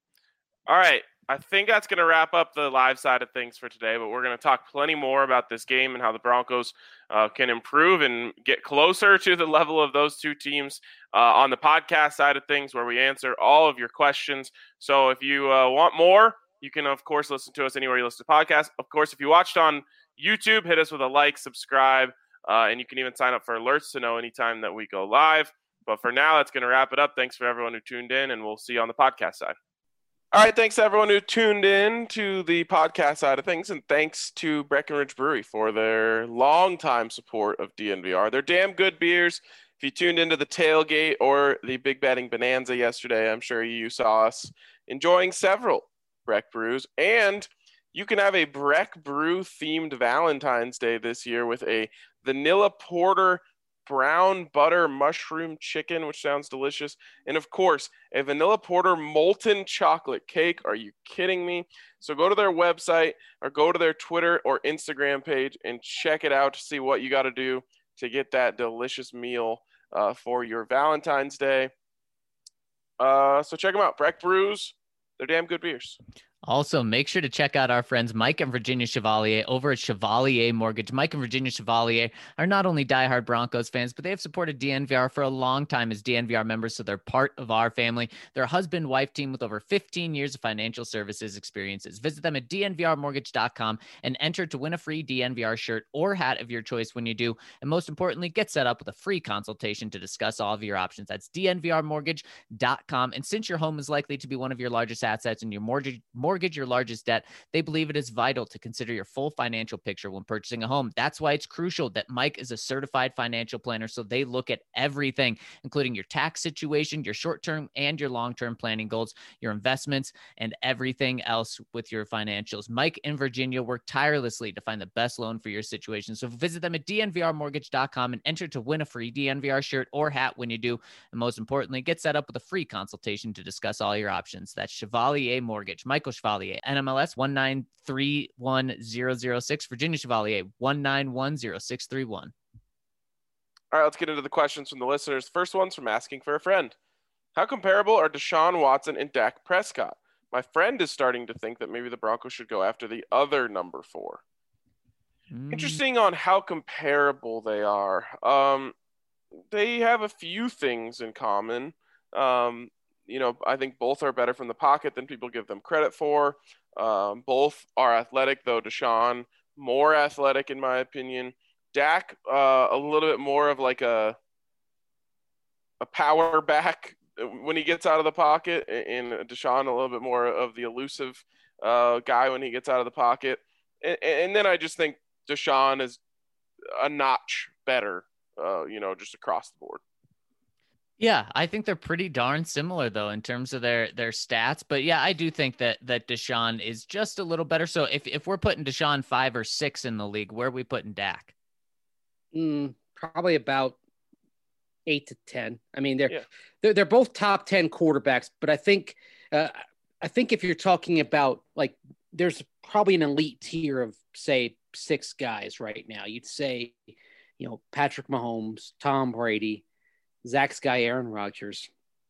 All right. I think that's going to wrap up the live side of things for today, but we're going to talk plenty more about this game and how the Broncos uh, can improve and get closer to the level of those two teams uh, on the podcast side of things, where we answer all of your questions. So if you uh, want more, you can, of course, listen to us anywhere you listen to podcasts. Of course, if you watched on YouTube, hit us with a like, subscribe, uh, and you can even sign up for alerts to know anytime that we go live. But for now, that's going to wrap it up. Thanks for everyone who tuned in, and we'll see you on the podcast side. All right, thanks to everyone who tuned in to the podcast side of things, and thanks to Breckenridge Brewery for their longtime support of D N V R. They're damn good beers. If you tuned into the tailgate or the Big Betting Bonanza yesterday, I'm sure you saw us enjoying several Breck brews, and you can have a Breck Brew themed Valentine's Day this year with a vanilla porter brown butter mushroom chicken, which sounds delicious, and of course a vanilla porter molten chocolate cake. Are you kidding me? So go to their website or go to their Twitter or Instagram page and check it out to see what you got to do to get that delicious meal uh, for your Valentine's Day. Uh, so check them out. Breck Brews, they're damn good beers. Also, make sure to check out our friends Mike and Virginia Chevalier over at Chevalier Mortgage. Mike and Virginia Chevalier are not only diehard Broncos fans, but they have supported D N V R for a long time as D N V R members, so they're part of our family. They're a husband-wife team with over fifteen years of financial services experiences. Visit them at D N V R mortgage dot com and enter to win a free D N V R shirt or hat of your choice when you do. And most importantly, get set up with a free consultation to discuss all of your options. That's D N V R mortgage dot com. And since your home is likely to be one of your largest assets and your mortgage mortgage your largest debt, they believe it is vital to consider your full financial picture when purchasing a home. That's why it's crucial that Mike is a certified financial planner, so they look at everything, including your tax situation, your short-term and your long-term planning goals, your investments, and everything else with your financials. Mike and Virginia work tirelessly to find the best loan for your situation. So visit them at D N V R mortgage dot com and enter to win a free D N V R shirt or hat when you do. And most importantly, get set up with a free consultation to discuss all your options. That's Chevalier Mortgage. Michael Chevalier, N M L S one nine three one zero zero six, Virginia Chevalier one nine one zero six three one. All right, let's get into the questions from the listeners. First one's from Asking for a Friend. How comparable are Deshaun Watson and Dak Prescott? My friend is starting to think that maybe the Broncos should go after the other number four. Mm. Interesting on how comparable they are. Um, they have a few things in common. Um, you know, I think both are better from the pocket than people give them credit for. Um, both are athletic, though Deshaun more athletic in my opinion. Dak uh, a little bit more of like a a power back when he gets out of the pocket, and Deshaun a little bit more of the elusive uh, guy when he gets out of the pocket. And, and then I just think Deshaun is a notch better, uh, you know, just across the board. Yeah, I think they're pretty darn similar though in terms of their their stats. But yeah, I do think that that Deshaun is just a little better. So if if we're putting Deshaun five or six in the league, where are we putting Dak? Mm, probably about eight to ten. I mean, they're Yeah. they're they're both top ten quarterbacks, but I think uh, I think if you're talking about like, there's probably an elite tier of say six guys right now. You'd say, you know, Patrick Mahomes, Tom Brady, Zach Sky, Aaron Rodgers.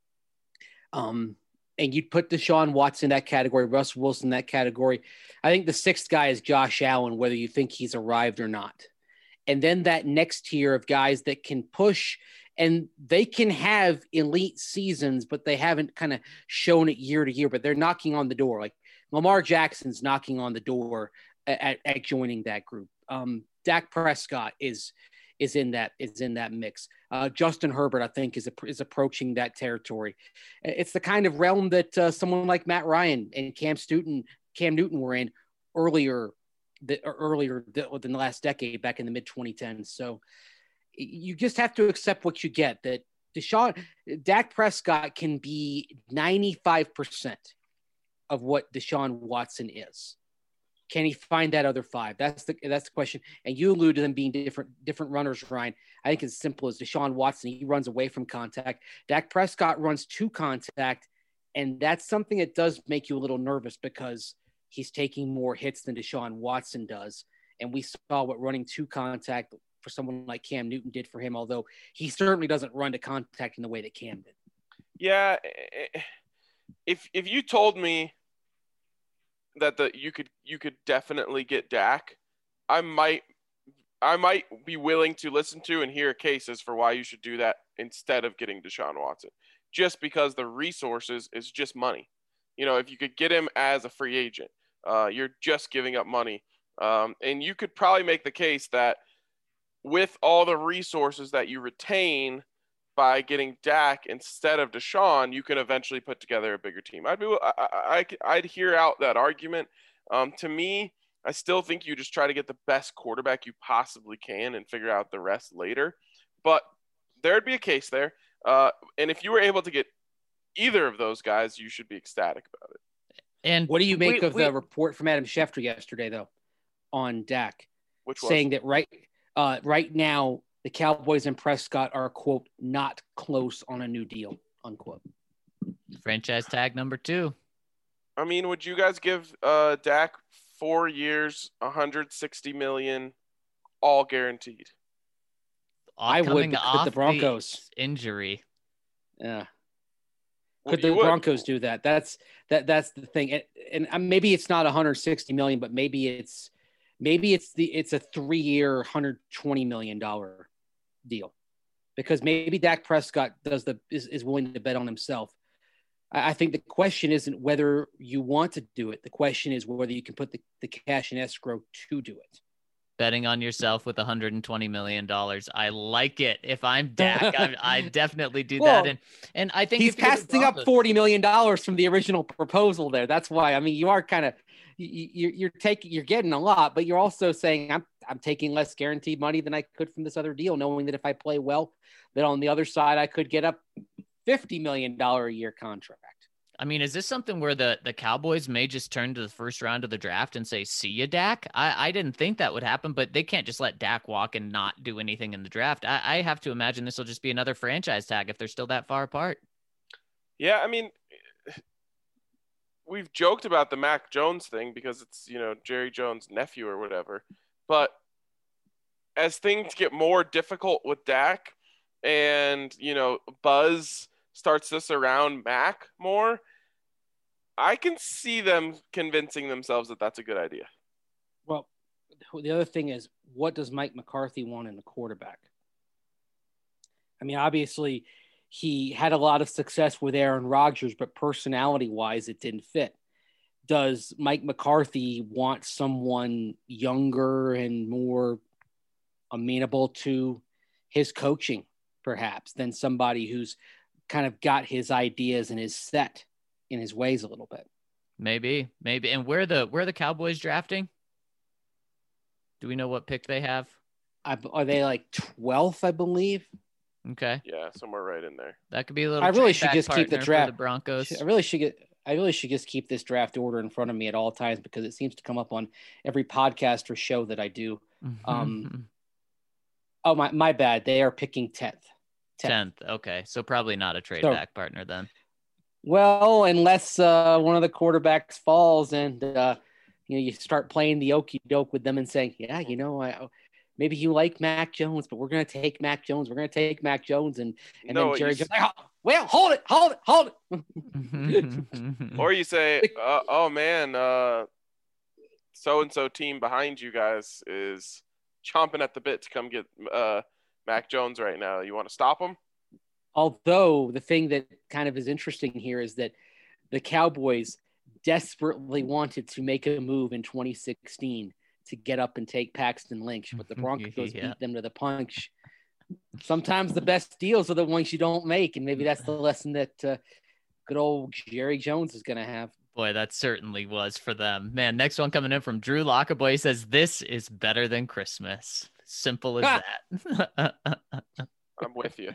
Um, and you'd put Deshaun Watson in that category, Russ Wilson in that category. I think the sixth guy is Josh Allen, whether you think he's arrived or not. And then that next tier of guys that can push, and they can have elite seasons, but they haven't kind of shown it year to year, but they're knocking on the door. Like Lamar Jackson's knocking on the door at, at joining that group. Um, Dak Prescott is is in that is in that mix. Uh, Justin Herbert, I think, is is approaching that territory. It's the kind of realm that uh, someone like Matt Ryan and Cam Newton Cam Newton were in earlier the, earlier than the last decade, back in the mid twenty tens. So you just have to accept what you get. That Deshaun Dak Prescott can be ninety-five percent of what Deshaun Watson is. Can he find that other five? That's the that's the question. And you allude to them being different different runners, Ryan. I think it's as simple as Deshaun Watson. He runs away from contact. Dak Prescott runs to contact, and that's something that does make you a little nervous because he's taking more hits than Deshaun Watson does. And we saw what running to contact for someone like Cam Newton did for him, although he certainly doesn't run to contact in the way that Cam did. Yeah, if if you told me that the you could you could definitely get Dak, I might I might be willing to listen to and hear cases for why you should do that instead of getting Deshaun Watson, just because the resources is just money. You know, if you could get him as a free agent, uh, you're just giving up money, um, and you could probably make the case that with all the resources that you retain by getting Dak instead of Deshaun, you can eventually put together a bigger team. I'd be, I, I, I'd hear out that argument. Um, to me, I still think you just try to get the best quarterback you possibly can and figure out the rest later. But there'd be a case there. Uh, and if you were able to get either of those guys, you should be ecstatic about it. And what do you make we, of we, the report from Adam Schefter yesterday, though, on Dak, which was? saying that right, uh, right now, the Cowboys and Prescott are, quote, not close on a new deal, unquote. Franchise tag number two. I mean, would you guys give uh, Dak four years, one hundred sixty million dollars, all guaranteed? I would, off the Broncos the injury. Yeah. Well, Could the would. Broncos do that? That's that. That's the thing. And, and maybe it's not one hundred sixty million dollars, but maybe it's maybe it's the it's a three-year, one hundred twenty million dollars deal, because maybe Dak Prescott does the is, is willing to bet on himself. I, I think the question isn't whether you want to do it. The question is whether you can put the, the cash in escrow to do it. Betting on yourself with one hundred twenty million dollars. I like it. If I'm Dak, I, I definitely do well, that. And and I think he's passing up forty million dollars from the original proposal there. That's why, I mean, you are kind of, you, you're taking, you're getting a lot, but you're also saying I'm, I'm taking less guaranteed money than I could from this other deal, knowing that if I play well, that on the other side, I could get a fifty million dollars a year contract. I mean, is this something where the, the Cowboys may just turn to the first round of the draft and say, see ya, Dak? I, I didn't think that would happen, but they can't just let Dak walk and not do anything in the draft. I, I have to imagine this will just be another franchise tag if they're still that far apart. Yeah, I mean, we've joked about the Mac Jones thing because it's, you know, Jerry Jones' nephew or whatever. But as things get more difficult with Dak and, you know, buzz starts this around Mac more, I can see them convincing themselves that that's a good idea. Well, the other thing is, what does Mike McCarthy want in the quarterback? I mean, obviously, he had a lot of success with Aaron Rodgers, but personality-wise, it didn't fit. Does Mike McCarthy want someone younger and more amenable to his coaching, perhaps, than somebody who's kind of got his ideas and is set in his ways a little bit? Maybe, maybe. And where the where are the Cowboys drafting? Do we know what pick they have? I, are they like twelfth, I believe? Okay. Yeah, somewhere right in there. That could be a little I really trade should back just keep the partner draft. for the Broncos. I really should get. I really should just keep this draft order in front of me at all times because it seems to come up on every podcast or show that I do. Um, oh my, my bad. They are picking tenth. Tenth. Okay, so probably not a trade So- back partner then. Well, unless uh, one of the quarterbacks falls and uh, you know you start playing the okey doke with them and saying, yeah, you know, I, maybe you like Mac Jones, but we're gonna take Mac Jones. We're gonna take Mac Jones, and and No, then Jerry you Jones, like, oh, well, hold it, hold it, hold it. Or you say, uh, oh man, uh, so-and-so team behind you guys is chomping at the bit to come get uh, Mac Jones right now. You want to stop him? Although the thing that kind of is interesting here is that the Cowboys desperately wanted to make a move in twenty sixteen to get up and take Paxton Lynch, but the Broncos Yeah. beat them to the punch. Sometimes the best deals are the ones you don't make, and maybe that's the lesson that uh, good old Jerry Jones is going to have. Boy, that certainly was for them. Man, next one coming in from Drew Lockaboy. He says, this is better than Christmas. Simple as that. I'm with you.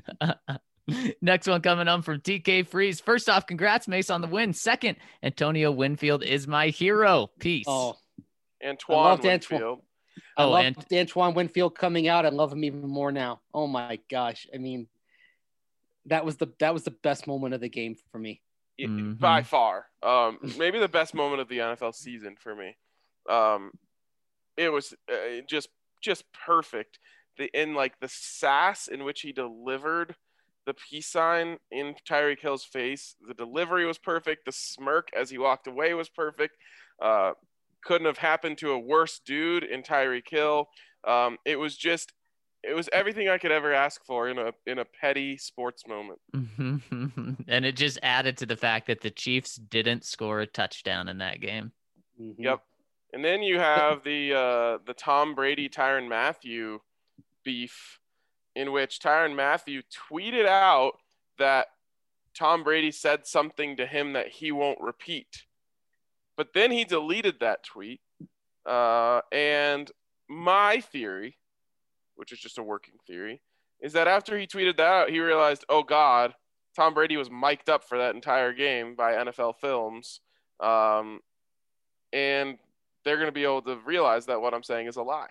Next one coming on from T K Freeze. First off, congrats, Mace, on the win. Second, Antonio Winfield is my hero. Peace. Oh, Antoine loved Winfield. I Oh, love and- Antoine Winfield coming out. I love him even more now. Oh my gosh! I mean, that was the that was the best moment of the game for me. Yeah, Mhm. by far. Um, maybe the best moment of the N F L season for me. Um, it was uh, just just perfect. The in like the sass in which he delivered the peace sign in Tyreek Hill's face. The delivery was perfect. The smirk as he walked away was perfect. Uh, couldn't have happened to a worse dude in Tyreek Hill. Um, it was just it was everything I could ever ask for in a in a petty sports moment. And it just added to the fact that the Chiefs didn't score a touchdown in that game. Mhm. Yep. And then you have the uh, the Tom Brady Tyrann Mathieu beef, in which Tyrann Mathieu tweeted out that Tom Brady said something to him that he won't repeat, but then he deleted that tweet. Uh, and my theory, which is just a working theory, is that after he tweeted that out, he realized, oh God, Tom Brady was mic'd up for that entire game by N F L Films, um, and they're going to be able to realize that what I'm saying is a lie.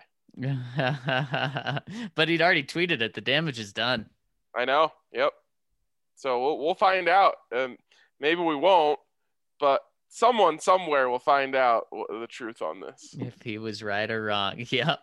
But he'd already tweeted it. The damage is done. I know. Yep. So we'll, we'll find out. Um, maybe we won't, but someone somewhere will find out the truth on this. If he was right or wrong. Yep.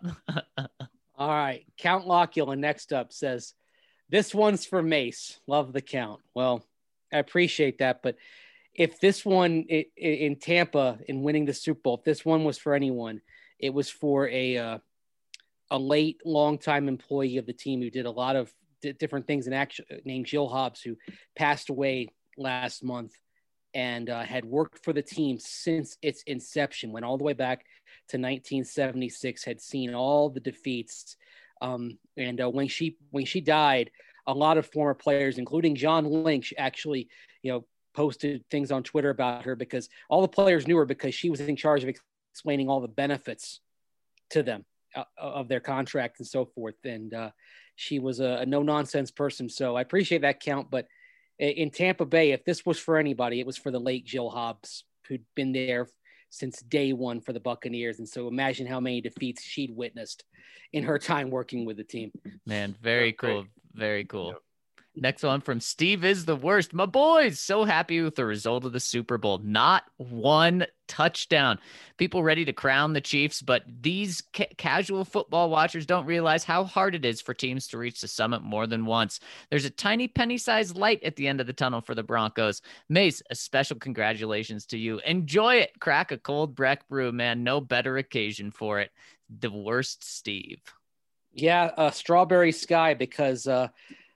All right. Count Lockula next up says, this one's for Mace. Love the count. Well, I appreciate that. But if this one i- i- in Tampa in winning the Super Bowl, if this one was for anyone, it was for a, uh, a late, longtime employee of the team who did a lot of d- different things in action, named Jill Hobbs, who passed away last month and uh, had worked for the team since its inception, went all the way back to nineteen seventy-six, had seen all the defeats. Um, and uh, when she when she died, a lot of former players, including John Lynch, actually, you know, posted things on Twitter about her because all the players knew her because she was in charge of ex- explaining all the benefits to them uh, of their contract and so forth. And uh, she was a, a no nonsense person. So I appreciate that count. But in Tampa Bay, if this was for anybody, it was for the late Jill Hobbs, who'd been there since day one for the Buccaneers. And so imagine how many defeats she'd witnessed in her time working with the team. Man, very That's great. cool. Very cool. Yep. Next one from Steve is the worst. My boys, so happy with the result of the Super Bowl. Not one touchdown. People ready to crown the Chiefs, but these ca- casual football watchers don't realize how hard it is for teams to reach the summit more than once. There's a tiny penny-sized light at the end of the tunnel for the Broncos. Mace, a special congratulations to you. Enjoy it. Crack a cold Breck brew, man. No better occasion for it. The worst Steve. Yeah, uh, strawberry sky, because uh,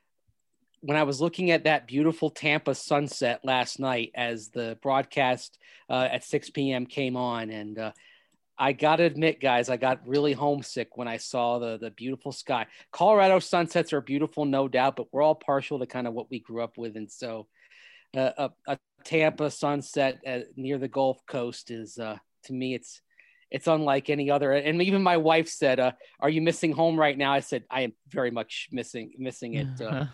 when I was looking at that beautiful Tampa sunset last night as the broadcast uh, at six p.m. came on, and uh, I got to admit, guys, I got really homesick when I saw the the beautiful sky. Colorado sunsets are beautiful, no doubt, but we're all partial to kind of what we grew up with. And so uh, a, a Tampa sunset at, near the Gulf Coast is, uh, to me, it's it's unlike any other. And even my wife said, uh, "Are you missing home right now?" I said, "I am very much missing missing it." Uh,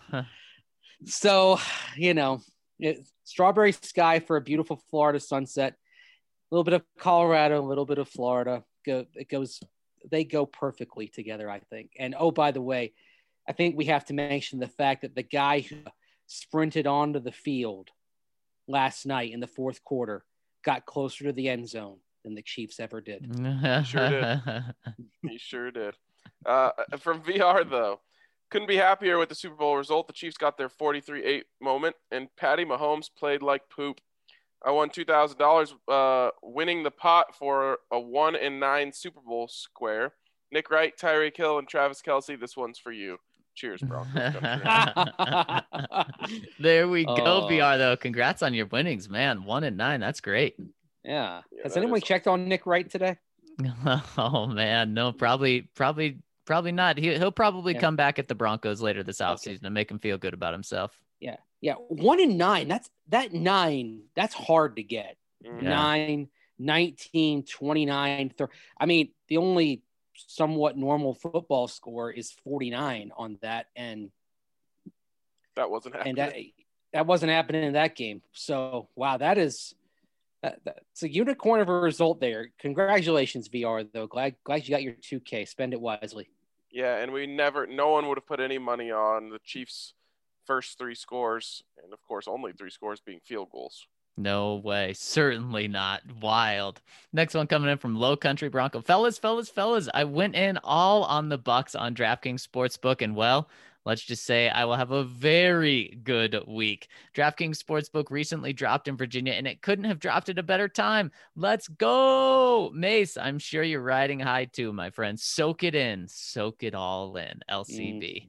so, you know, it, strawberry sky for a beautiful Florida sunset. A little bit of Colorado, a little bit of Florida. Go, it goes. They go perfectly together, I think. And oh, by the way, I think we have to mention the fact that the guy who sprinted onto the field last night in the fourth quarter got closer to the end zone than the Chiefs ever did. He sure did. He sure did. Uh, from V R, though, couldn't be happier with the Super Bowl result. The Chiefs got their forty-three eight moment, and Patty Mahomes played like poop. I won two thousand dollars uh, winning the pot for a one and nine Super Bowl square. Nick Wright, Tyreek Hill, and Travis Kelce, this one's for you. Cheers, Broncos country. There we go, Oh. V R, though. Congrats on your winnings, man. One and nine. That's great. Yeah. Yeah, Has that anyone is- checked on Nick Wright today? Oh, man. No, probably, probably, probably not. He, he'll probably Yeah. come back at the Broncos later this Okay. offseason and make him feel good about himself. Yeah. Yeah. One in nine. That's that nine. That's hard to get. Mhm. Yeah. Nine, nineteen, twenty-nine, thirty. I mean, the only somewhat normal football score is forty-nine on that. And, That wasn't happening. and that, that wasn't happening in that game. So, wow, that is, that, that's a unicorn of a result there. Congratulations, V R, though. Glad, glad you got your two K. Spend it wisely. Yeah, and we never, no one would have put any money on the Chiefs' first three scores, and of course, only three scores being field goals. No way. Certainly not. Wild. Next one coming in from Low Country Bronco. Fellas, fellas, fellas, I went in all on the Bucks on DraftKings Sportsbook, and well, let's just say I will have a very good week. DraftKings Sportsbook recently dropped in Virginia, and it couldn't have dropped at a better time. Let's go. Mace, I'm sure you're riding high too, my friend. Soak it in. Soak it all in. L C B.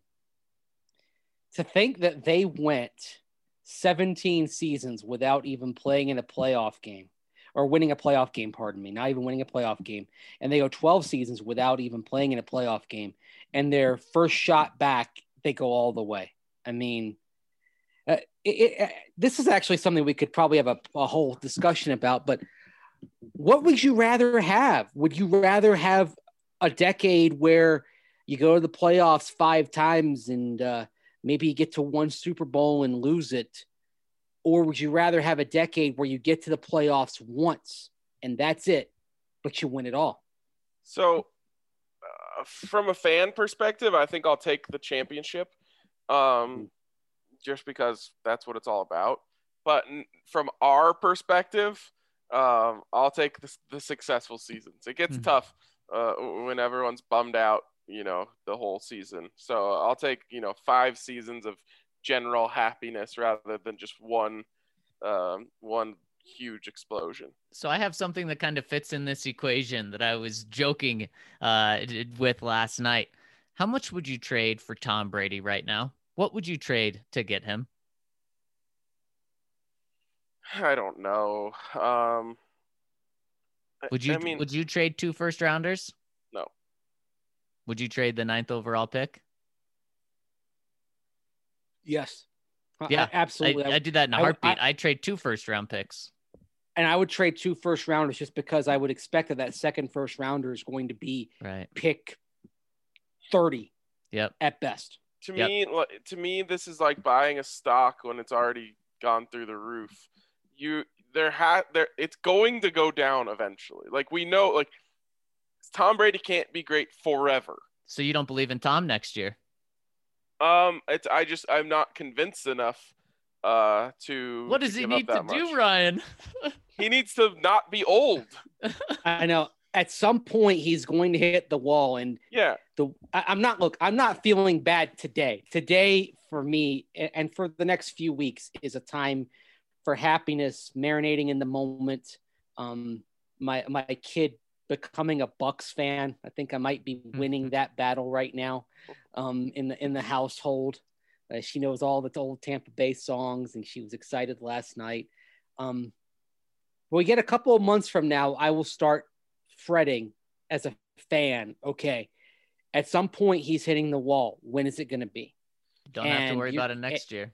To think that they went seventeen seasons without even playing in a playoff game or winning a playoff game, pardon me, not even winning a playoff game. And they go twelve seasons without even playing in a playoff game. And their first shot back, they go all the way. I mean, uh, it, it, this is actually something we could probably have a, a whole discussion about, but what would you rather have? Would you rather have a decade where you go to the playoffs five times and, uh, maybe you get to one Super Bowl and lose it? Or would you rather have a decade where you get to the playoffs once and that's it, but you win it all? So, uh, from a fan perspective, I think I'll take the championship, um, just because that's what it's all about. But n- from our perspective, um, I'll take the, the successful seasons. It gets Mhm. tough uh, when everyone's bummed out, you know, the whole season. So I'll take, you know, five seasons of general happiness rather than just one, um, one huge explosion. So I have something that kind of fits in this equation that I was joking uh, d- with last night. How much would you trade for Tom Brady right now? What would you trade to get him? I don't know. Um, I- Would you I mean, would you trade two first rounders? No. Would you trade the ninth overall pick? Yes. Yeah, I- absolutely. I, I do that in a I- heartbeat. I- I, would trade two first round picks. and I would trade two first rounders just because I would expect that that second first rounder is going to be Right. pick thirty Yep. at best. To Yep. me, li- to me, this is like buying a stock when it's already gone through the roof. You there ha there it's going to go down eventually. Like we know, like Tom Brady can't be great forever. So you don't believe in Tom next year? Um, it's I just I'm not convinced enough uh to What to does he give up need to that do, much. Ryan? He needs to not be old. I know at some point he's going to hit the wall, and Yeah. the I, I'm not look. I'm not feeling bad today. Today for me a- and for the next few weeks is a time for happiness, marinating in the moment. Um, my my kid becoming a Bucks fan. I think I might be winning that battle right now. Um, in the in the household, uh, she knows all the old Tampa Bay songs, and she was excited last night. Um, when we get a couple of months from now, I will start fretting as a fan. Okay, at some point he's hitting the wall. When is it going to be? Don't have to And worry you- about it next year.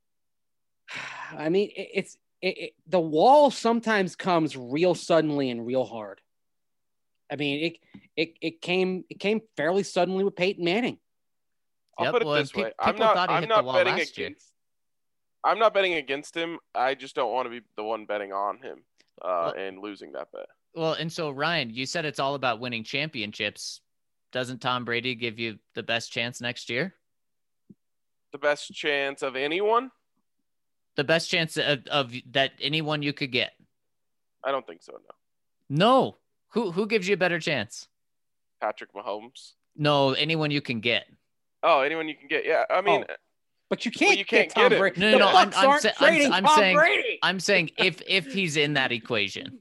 I mean, it, it's it, it, the wall sometimes comes real suddenly and real hard. I mean, it it it came it came fairly suddenly with Peyton Manning. I'll Yep, put it well, this pe- way: I'm people not. thought he I'm hit the not wall betting last year. against. I'm not betting against him. I just don't want to be the one betting on him uh, Well- and losing that bet. Well, and so Ryan, you said it's all about winning championships. Doesn't Tom Brady give you the best chance next year? The best chance of anyone? The best chance of, of that anyone you could get? I don't think so. No. No. Who who gives you a better chance? Patrick Mahomes. No, anyone you can get. Oh, anyone you can get. Yeah, I mean, Oh. But you can't, you can't get Tom get him. Brady. No, no, The no, I'm- Bucs I'm aren't sa- I'm- trading I'm Tom saying- Brady. I'm saying if if he's in that equation.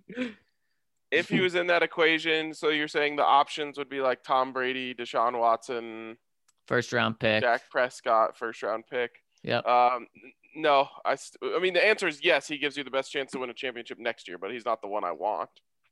if he was in that equation, so you're saying the options would be like Tom Brady, Deshaun Watson, First round pick. Dak Prescott, first round pick. Yep. Um, no, I. St- I mean, the answer is yes. He gives you the best chance to win a championship next year, but he's not the one I want.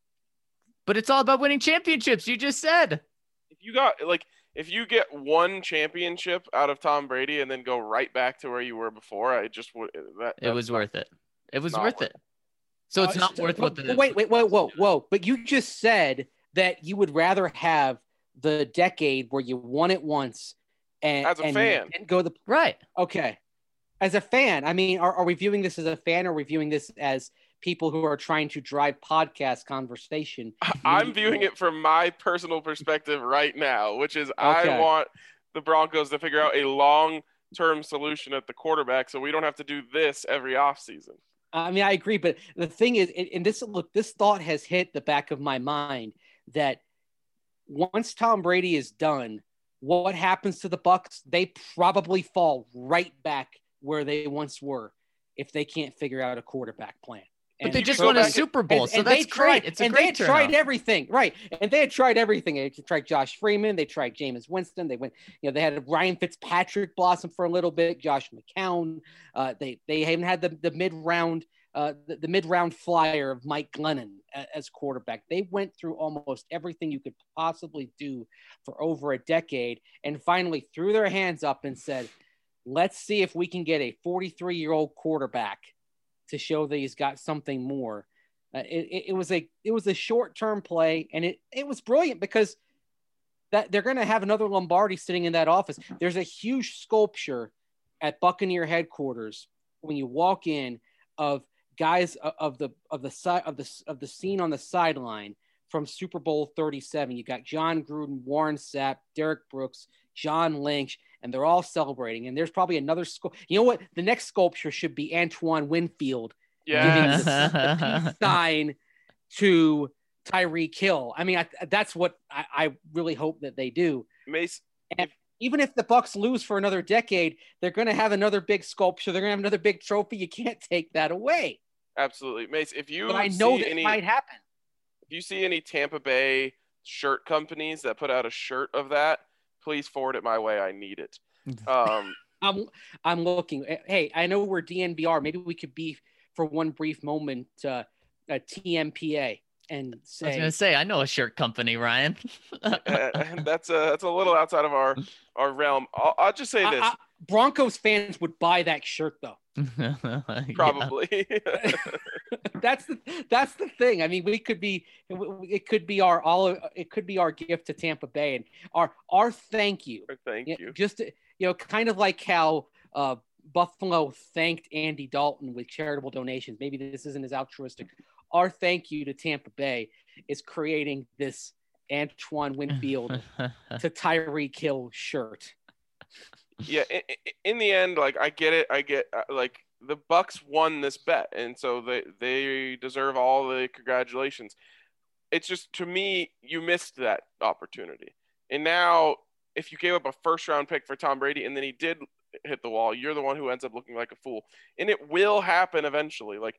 But it's all about winning championships. You just said. If you got like, if you get one championship out of Tom Brady and then go right back to where you were before, I just would. That, It was worth it. It was not worth worth it. So it's Uh, not so- worth what but- the but wait, wait, whoa, whoa, whoa! But you just said that you would rather have the decade where you won it once, and As a and fan. didn't go the right. okay. As a fan, I mean, are, are we viewing this as a fan, or are we viewing this as people who are trying to drive podcast conversation? I'm viewing it from my personal perspective right now, which is I Okay. want the Broncos to figure out a long-term solution at the quarterback so we don't have to do this every offseason. I mean, I agree, but the thing is, and and this look, this thought has hit the back of my mind that once Tom Brady is done, what happens to the Bucs? They probably fall right back where they once were if they can't figure out a quarterback plan. But And they you just go won a back- Super Bowl, and- so and that's they tried, great. It's a and great they had turnout. tried everything, right? And they had tried everything. They tried Josh Freeman. They tried Jameis Winston. They went, you know, they had Ryan Fitzpatrick blossom for a little bit. Josh McCown. Uh, they they haven't had the the mid round, uh, the, the mid round flyer of Mike Glennon a- as quarterback. They went through almost everything you could possibly do for over a decade, and finally threw their hands up and said, "Let's see if we can get a forty-three year old quarterback to show that he's got something more." Uh, it, it, it was a it was a short term play, and it it was brilliant because that they're going to have another Lombardi sitting in that office. There's a huge sculpture at Buccaneer headquarters when you walk in of guys of, of the of the side of the of the scene on the sideline from Super Bowl thirty-seven. You got John Gruden, Warren Sapp, Derek Brooks, John Lynch, and they're all celebrating. And there's probably another sculpt. You know what? The next sculpture should be Antoine Winfield giving Yeah. the, the peace sign to Tyreek Hill. I mean, I, that's what I, I really hope that they do. Mace, Even if the Bucs lose for another decade, they're going to have another big sculpture. They're going to have another big trophy. You can't take that away. absolutely. Mace, if you But I know see that any, might happen. if you see any Tampa Bay shirt companies that put out a shirt of that, please forward it my way. I need it. Um, I'm I'm looking. Hey, I know we're D N B R. Maybe we could be for one brief moment uh, a T M P A and I was say gonna say I know a shirt company, Ryan. uh, that's a that's a little outside of our our realm. I'll, I'll just say I- this: I- Broncos fans would buy that shirt though. Yeah. probably. that's the that's the thing. I mean, we could be it could be our all it could be our gift to Tampa Bay and our our thank you. Thank Yeah, you. Just you know, kind of like how uh, Buffalo thanked Andy Dalton with charitable donations. Maybe this isn't as altruistic. Our thank you to Tampa Bay is creating this Antoine Winfield to Tyreek Hill shirt. Yeah, in, in the end, like I get it. I get uh, like the Bucks won this bet, and so they they deserve all the congratulations. It's just to me, you missed that opportunity, and now if you gave up a first round pick for Tom Brady and then he did hit the wall, you're the one who ends up looking like a fool, and it will happen eventually. Like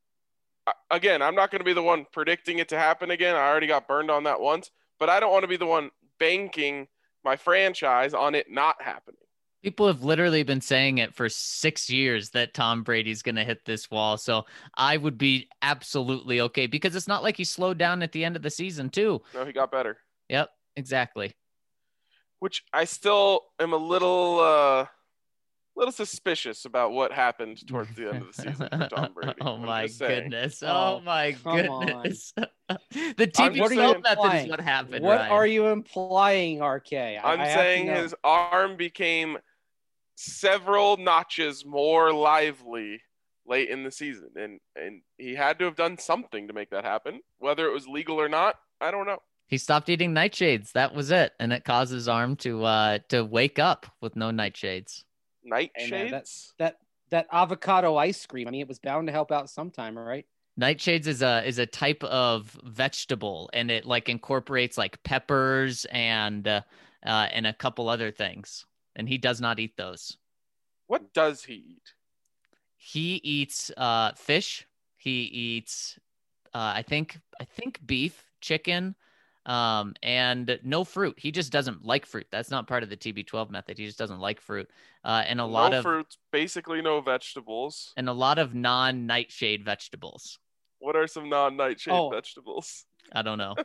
again, I'm not going to be the one predicting it to happen again. I already got burned on that once, but I don't want to be the one banking my franchise on it not happening. People have literally been saying it for six years that Tom Brady's going to hit this wall. So I would be absolutely okay because it's not like he slowed down at the end of the season too. No, he got better. Yep, exactly. Which I still am a little, uh, little suspicious about what happened towards the end of the season for Tom Brady. Oh I'm my just saying. goodness. Oh, Oh my come on. goodness. The T I'm B just twelve saying- method is implying? what happened, What Ryan. are you implying, R K? I, I'm I have to saying know. his arm became several notches more lively late in the season, and and he had to have done something to make that happen. Whether it was legal or not, I don't know. He stopped eating nightshades. That was it. And it caused his arm to uh to wake up with no nightshades. Nightshades. Hey, man, that, that that avocado ice cream. I mean, it was bound to help out sometime, right? Nightshades is a is a type of vegetable, and it like incorporates like peppers and uh, uh and a couple other things. And he does not eat those. What does he eat? He eats uh fish. He eats uh I think I think beef, chicken, um, and no fruit. He just doesn't like fruit. That's not part of the T B twelve method. He just doesn't like fruit. Uh, and a lot no of fruits, basically no vegetables. and a lot of non-nightshade vegetables. What are some non-nightshade Oh. vegetables? I don't know.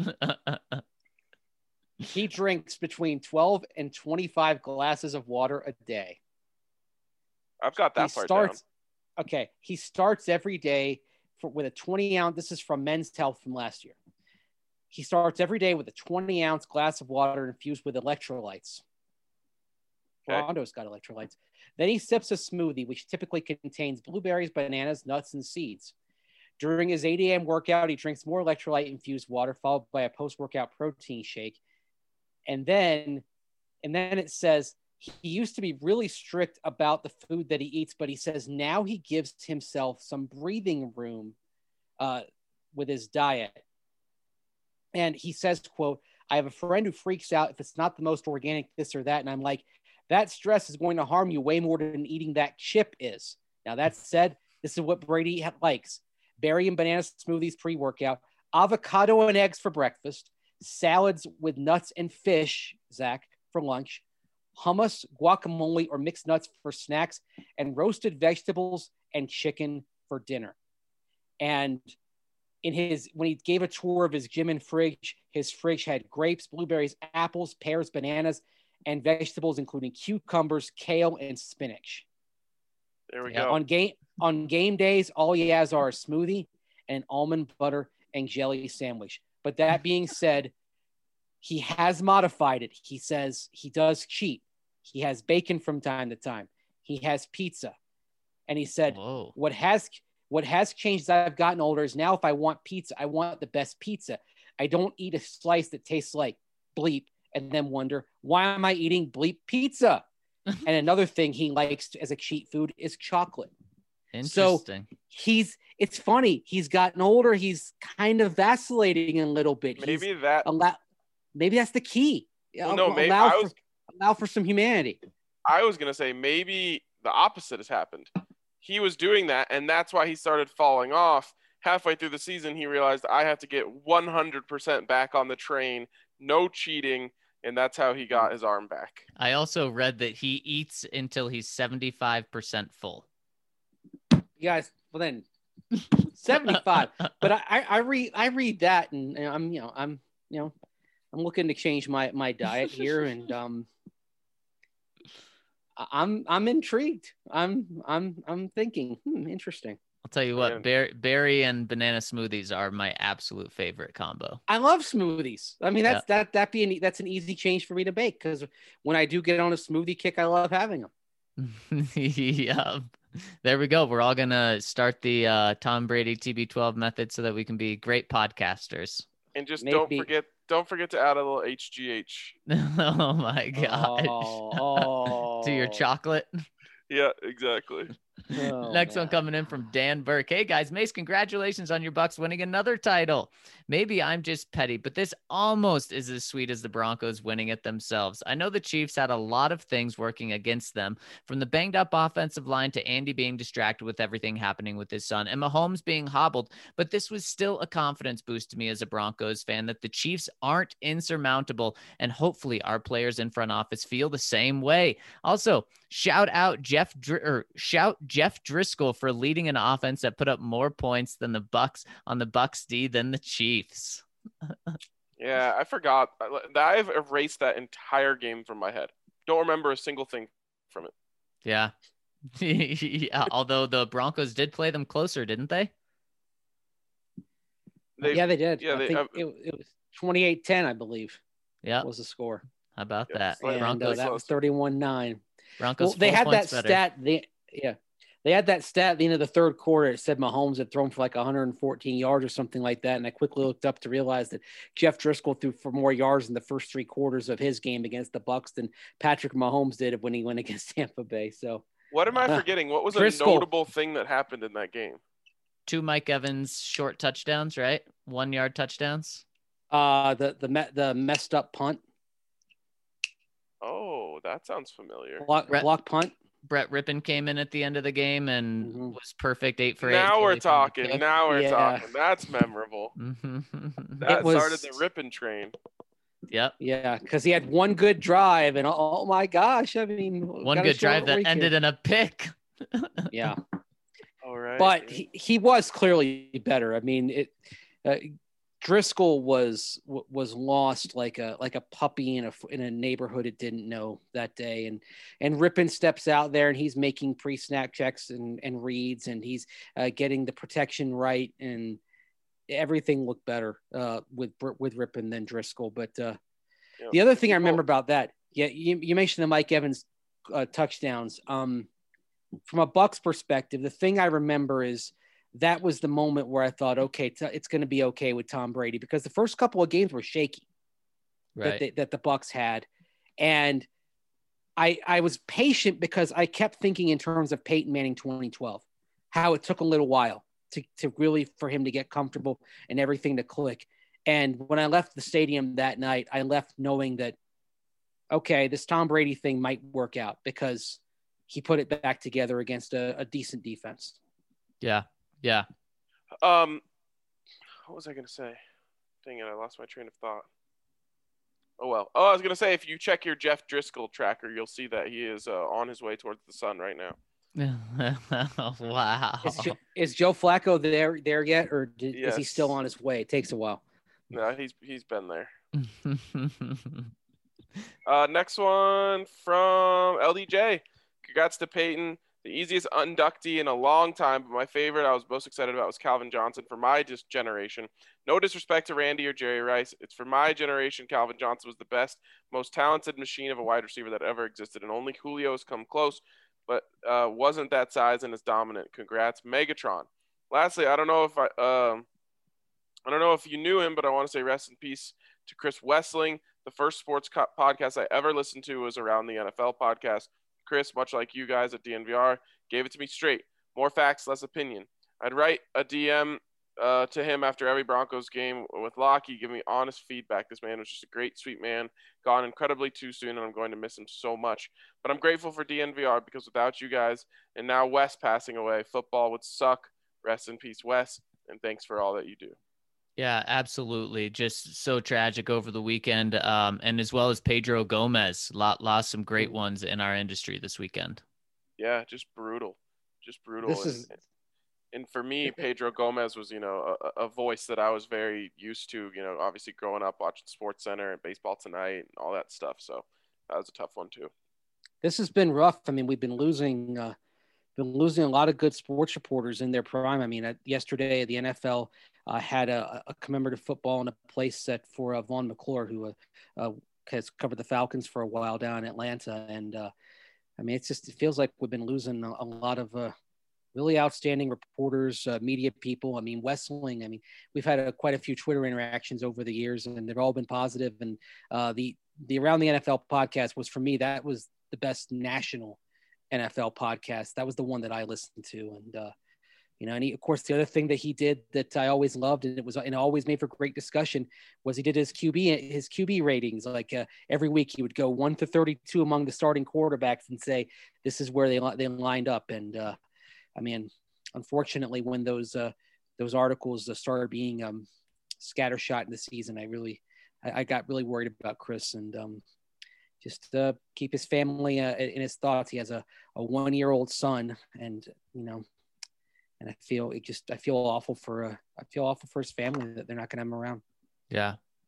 He drinks between twelve and twenty-five glasses of water a day. I've got that he part starts, down. Okay, he starts every day for, with a twenty ounce. This is from Men's Health from last year. He starts every day with a twenty ounce glass of water infused with electrolytes. Okay. Rondo's got electrolytes. Then he sips a smoothie, which typically contains blueberries, bananas, nuts, and seeds. During his eight a.m. workout, he drinks more electrolyte-infused water, followed by a post-workout protein shake. And then, and then it says he used to be really strict about the food that he eats, but he says now he gives himself some breathing room uh, with his diet. And he says, quote, I have a friend who freaks out if it's not the most organic this or that. And I'm like, that stress is going to harm you way more than eating that chip is. Now, that said, this is what Brady likes. Berry and banana smoothies pre-workout, avocado and eggs for breakfast, salads with nuts and fish, Zach, for lunch, hummus, guacamole, or mixed nuts for snacks, and roasted vegetables and chicken for dinner. And in his, when he gave a tour of his gym and fridge, his fridge had grapes, blueberries, apples, pears, bananas, and vegetables, including cucumbers, kale, and spinach. There we Yeah, go. On game on game days, all he has are a smoothie and an almond butter and jelly sandwich. But that being said, he has modified it. He says he does cheat. He has bacon from time to time. He has pizza. And he said, Whoa. what has what has changed as I've gotten older is now if I want pizza, I want the best pizza. I don't eat a slice that tastes like bleep and then wonder, why am I eating bleep pizza? And another thing he likes as a cheat food is chocolate. Interesting. He's, it's funny. He's gotten older. He's kind of vacillating a little bit. Maybe He's that. allow, maybe that's the key. Well, no, maybe allow, I for, was. allow for some humanity. I was gonna say maybe the opposite has happened. He was doing that, and that's why he started falling off. Halfway through the season, he realized I have to get one hundred percent back on the train, no cheating, and that's how he got his arm back. I also read that he eats until he's seventy-five percent full. You guys, well then, seventy-five. But I, I, I read, I read that, and, and I'm, you know, I'm, you know, I'm looking to change my my diet here, and um, I- I'm I'm intrigued. I'm I'm I'm thinking, hmm, interesting. I'll tell you Man. what, berry, berry and banana smoothies are my absolute favorite combo. I love smoothies. I mean, that's that that be an, that's an easy change for me to bake because when I do get on a smoothie kick, I love having them. Yeah. There we go. We're all going to start the uh, Tom Brady T B twelve method so that we can be great podcasters. And just don't Maybe. forget, don't forget to add a little H G H. Oh my gosh. Oh, oh. To your chocolate. Yeah, exactly. Oh, Next one man. coming in from Dan Burke. Hey guys, Mace, congratulations on your Bucks winning another title. Maybe I'm just petty, but this almost is as sweet as the Broncos winning it themselves. I know the Chiefs had a lot of things working against them, from the banged up offensive line to Andy being distracted with everything happening with his son and Mahomes being hobbled, but this was still a confidence boost to me as a Broncos fan that the Chiefs aren't insurmountable, and hopefully our players in front office feel the same way. Also, shout out Jeff Dr- or shout Jeff Driscoll for leading an offense that put up more points than the Bucks on the Bucks D than the Chiefs. Yeah, I forgot. I- I've erased that entire game from my head. Don't remember a single thing from it. Yeah. Yeah. Although the Broncos did play them closer, didn't they? They, yeah, they did. Yeah, I they, think uh, it, it was twenty-eight ten, I believe. Yeah. Was the score. How about Yeah, that? slightly- And uh, Broncos, that was closer. thirty-one nine. Broncos Well, they four had that points better. stat. They, yeah, they had that stat at the end of the third quarter. It said Mahomes had thrown for like one hundred fourteen yards or something like that. And I quickly looked up to realize that Jeff Driscoll threw for more yards in the first three quarters of his game against the Bucs than Patrick Mahomes did when he went against Tampa Bay. So What am I Uh, forgetting? What was Driscoll. a notable thing that happened in that game? Two Mike Evans short touchdowns, right? One yard touchdowns. uh, the the me- the messed up punt, Oh, that sounds familiar. block, Brett- block punt. Brett Rippon came in at the end of the game and Mhm. was perfect, eight for eight. Now we're Kelly from the talking. kick. Now we're Yeah. talking. That's memorable. Mhm. That It was- started the ripping train. Yep. Yeah, because he had one good drive, and oh, oh my gosh, I mean, One gotta good show drive it that where he ended can. in a pick. Yeah, All right. but he, he was clearly better. I mean, it. Uh, Driscoll was w- was lost like a like a puppy in a in a neighborhood it didn't know that day, and and Rippon steps out there and he's making pre snap checks and and reads, and he's uh, getting the protection right, and everything looked better uh, with with Rippon than Driscoll. But uh, Yeah. the other thing I People- remember about that, yeah, you, you mentioned the Mike Evans uh, touchdowns. Um, from a Bucs perspective, the thing I remember is that was the moment where I thought, okay, t- it's going to be okay with Tom Brady, because the first couple of games were shaky that Right. they, that the Bucs had, and I I was patient because I kept thinking in terms of Peyton Manning twenty twelve, how it took a little while to to really for him to get comfortable and everything to click. And when I left the stadium that night, I left knowing that, okay, this Tom Brady thing might work out because he put it back together against a, a decent defense. Yeah. Yeah. Um, what was I gonna say? Dang it, I lost my train of thought. Oh well. Oh, I was gonna say, if you check your Jeff Driscoll tracker, you'll see that he is uh, on his way towards the sun right now. Wow. Is, jo- is Joe Flacco there there yet, or did, is he Yes. still on his way? It takes a while. No, he's he's been there. Uh, next one from L D J. Congrats to Peyton. The easiest inductee in a long time, but my favorite I was most excited about was Calvin Johnson for my just generation. No disrespect to Randy or Jerry Rice. It's for my generation, Calvin Johnson was the best, most talented machine of a wide receiver that ever existed, and only Julio has come close, but uh, wasn't that size and as dominant. Congrats, Megatron. Lastly, I don't know if I um, I don't know if you knew him, but I want to say rest in peace to Chris Wessling. The first sports co- podcast I ever listened to was Around the N F L podcast. Chris, much like you guys at D N V R, gave it to me straight. More facts, less opinion. I'd write a D M uh, to him after every Broncos game with Lockie, give me honest feedback. This man was just a great, sweet man, gone incredibly too soon, and I'm going to miss him so much. But I'm grateful for D N V R because without you guys and now Wes passing away, football would suck. Rest in peace, Wes, and thanks for all that you do. Yeah, absolutely. Just so tragic over the weekend. Um, and as well as Pedro Gomez lot, lost some great ones in our industry this weekend. Yeah, just brutal. Just brutal. This and, is and for me, Pedro Gomez was, you know, a, a voice that I was very used to, you know, obviously growing up watching Sports Center and Baseball Tonight and all that stuff. So that was a tough one too. this has been rough. I mean, we've been losing, uh, been losing a lot of good sports reporters in their prime. I mean, uh, yesterday the N F L uh, had a, a commemorative football in a place set for uh, Vaughn McClure, who uh, uh, has covered the Falcons for a while down in Atlanta. And uh, I mean, it's just, it feels like we've been losing a, a lot of uh, really outstanding reporters, uh, media people. I mean, Wessling, I mean, we've had a, quite a few Twitter interactions over the years, and they've all been positive. And uh, the, the Around the N F L podcast was, for me, that was the best national N F L podcast. That was the one that I listened to. And, uh, you know, and he, of course, the other thing that he did that I always loved, and it was, and always made for great discussion, was he did his Q B, his Q B ratings. Like uh, every week he would go one to thirty-two among the starting quarterbacks and say, this is where they, they lined up. And uh, I mean, unfortunately, when those, uh, those articles started being um, scattershot in the season, I really, I, I got really worried about Chris, and um, just uh, keep his family uh, in his thoughts. He has a, a one-year-old son, and, you know, and I feel it just, I feel awful for, uh, I feel awful for his family that they're not going to have him around. Yeah.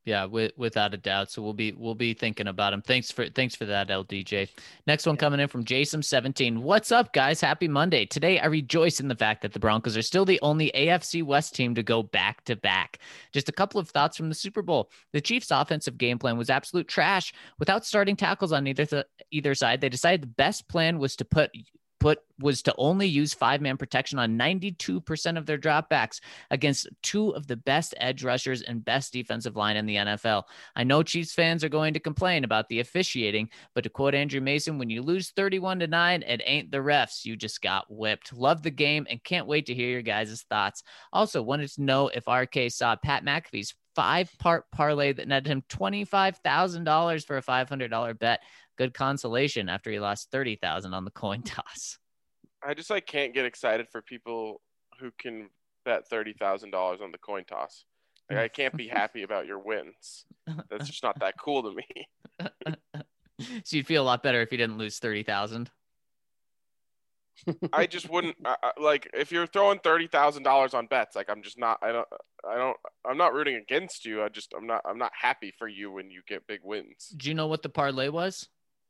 Yeah, with, without a doubt. So we'll be we'll be thinking about him. Thanks for thanks for that, L D J. Next one coming in from Jason seventeen. What's up, guys? Happy Monday. Today I rejoice in the fact that the Broncos are still the only A F C West team to go back to back. Just a couple of thoughts from the Super Bowl. The Chiefs' offensive game plan was absolute trash. Without starting tackles on either th- either side, they decided the best plan was to put put was to only use five-man protection on ninety-two percent of their dropbacks against two of the best edge rushers and best defensive line in the N F L. I know Chiefs fans are going to complain about the officiating, but to quote Andrew Mason, when you lose thirty-one to nine, it ain't the refs. You just got whipped. Love the game and can't wait to hear your guys' thoughts. Also, wanted to know if R K saw Pat McAfee's five-part parlay that netted him twenty-five thousand dollars for a five hundred dollars bet. Good consolation after he lost thirty thousand dollars on the coin toss. I just like can't get excited for people who can bet thirty thousand dollars on the coin toss. Like, I can't be happy about your wins. That's just not that cool to me. So you'd feel a lot better if you didn't lose thirty thousand. I just wouldn't I, I- like if you're throwing thirty thousand dollars on bets. Like I'm just not. I don't. I don't. I'm not rooting against you. I just. I'm not. I'm not happy for you when you get big wins. Do you know what the parlay was?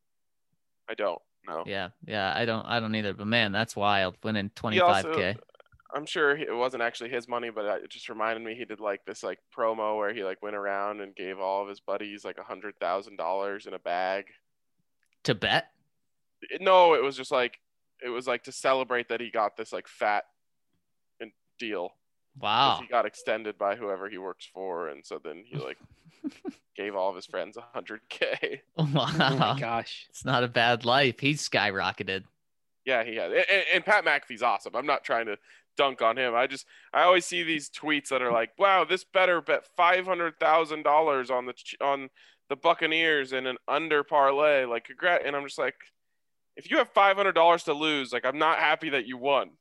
I don't know. Yeah, yeah, I don't, I don't either. But man, that's wild. Winning He twenty-five also, k. I'm sure it wasn't actually his money, but it just reminded me he did like this like promo where he like went around and gave all of his buddies like a hundred thousand dollars in a bag. To bet? No, it was just like it was like to celebrate that he got this like fat deal. Wow. He got extended by whoever he works for, and so then he like gave all of his friends a hundred k. Wow. Oh my gosh. It's not a bad life. He's skyrocketed. Yeah, he had. And, and Pat McAfee's awesome. I'm not trying to dunk on him. I just I always see these tweets that are like, "Wow, this better bet five hundred thousand dollars on the on the Buccaneers in an under parlay." Like, congrats. And I'm just like, if you have five hundred dollars to lose, like, I'm not happy that you won.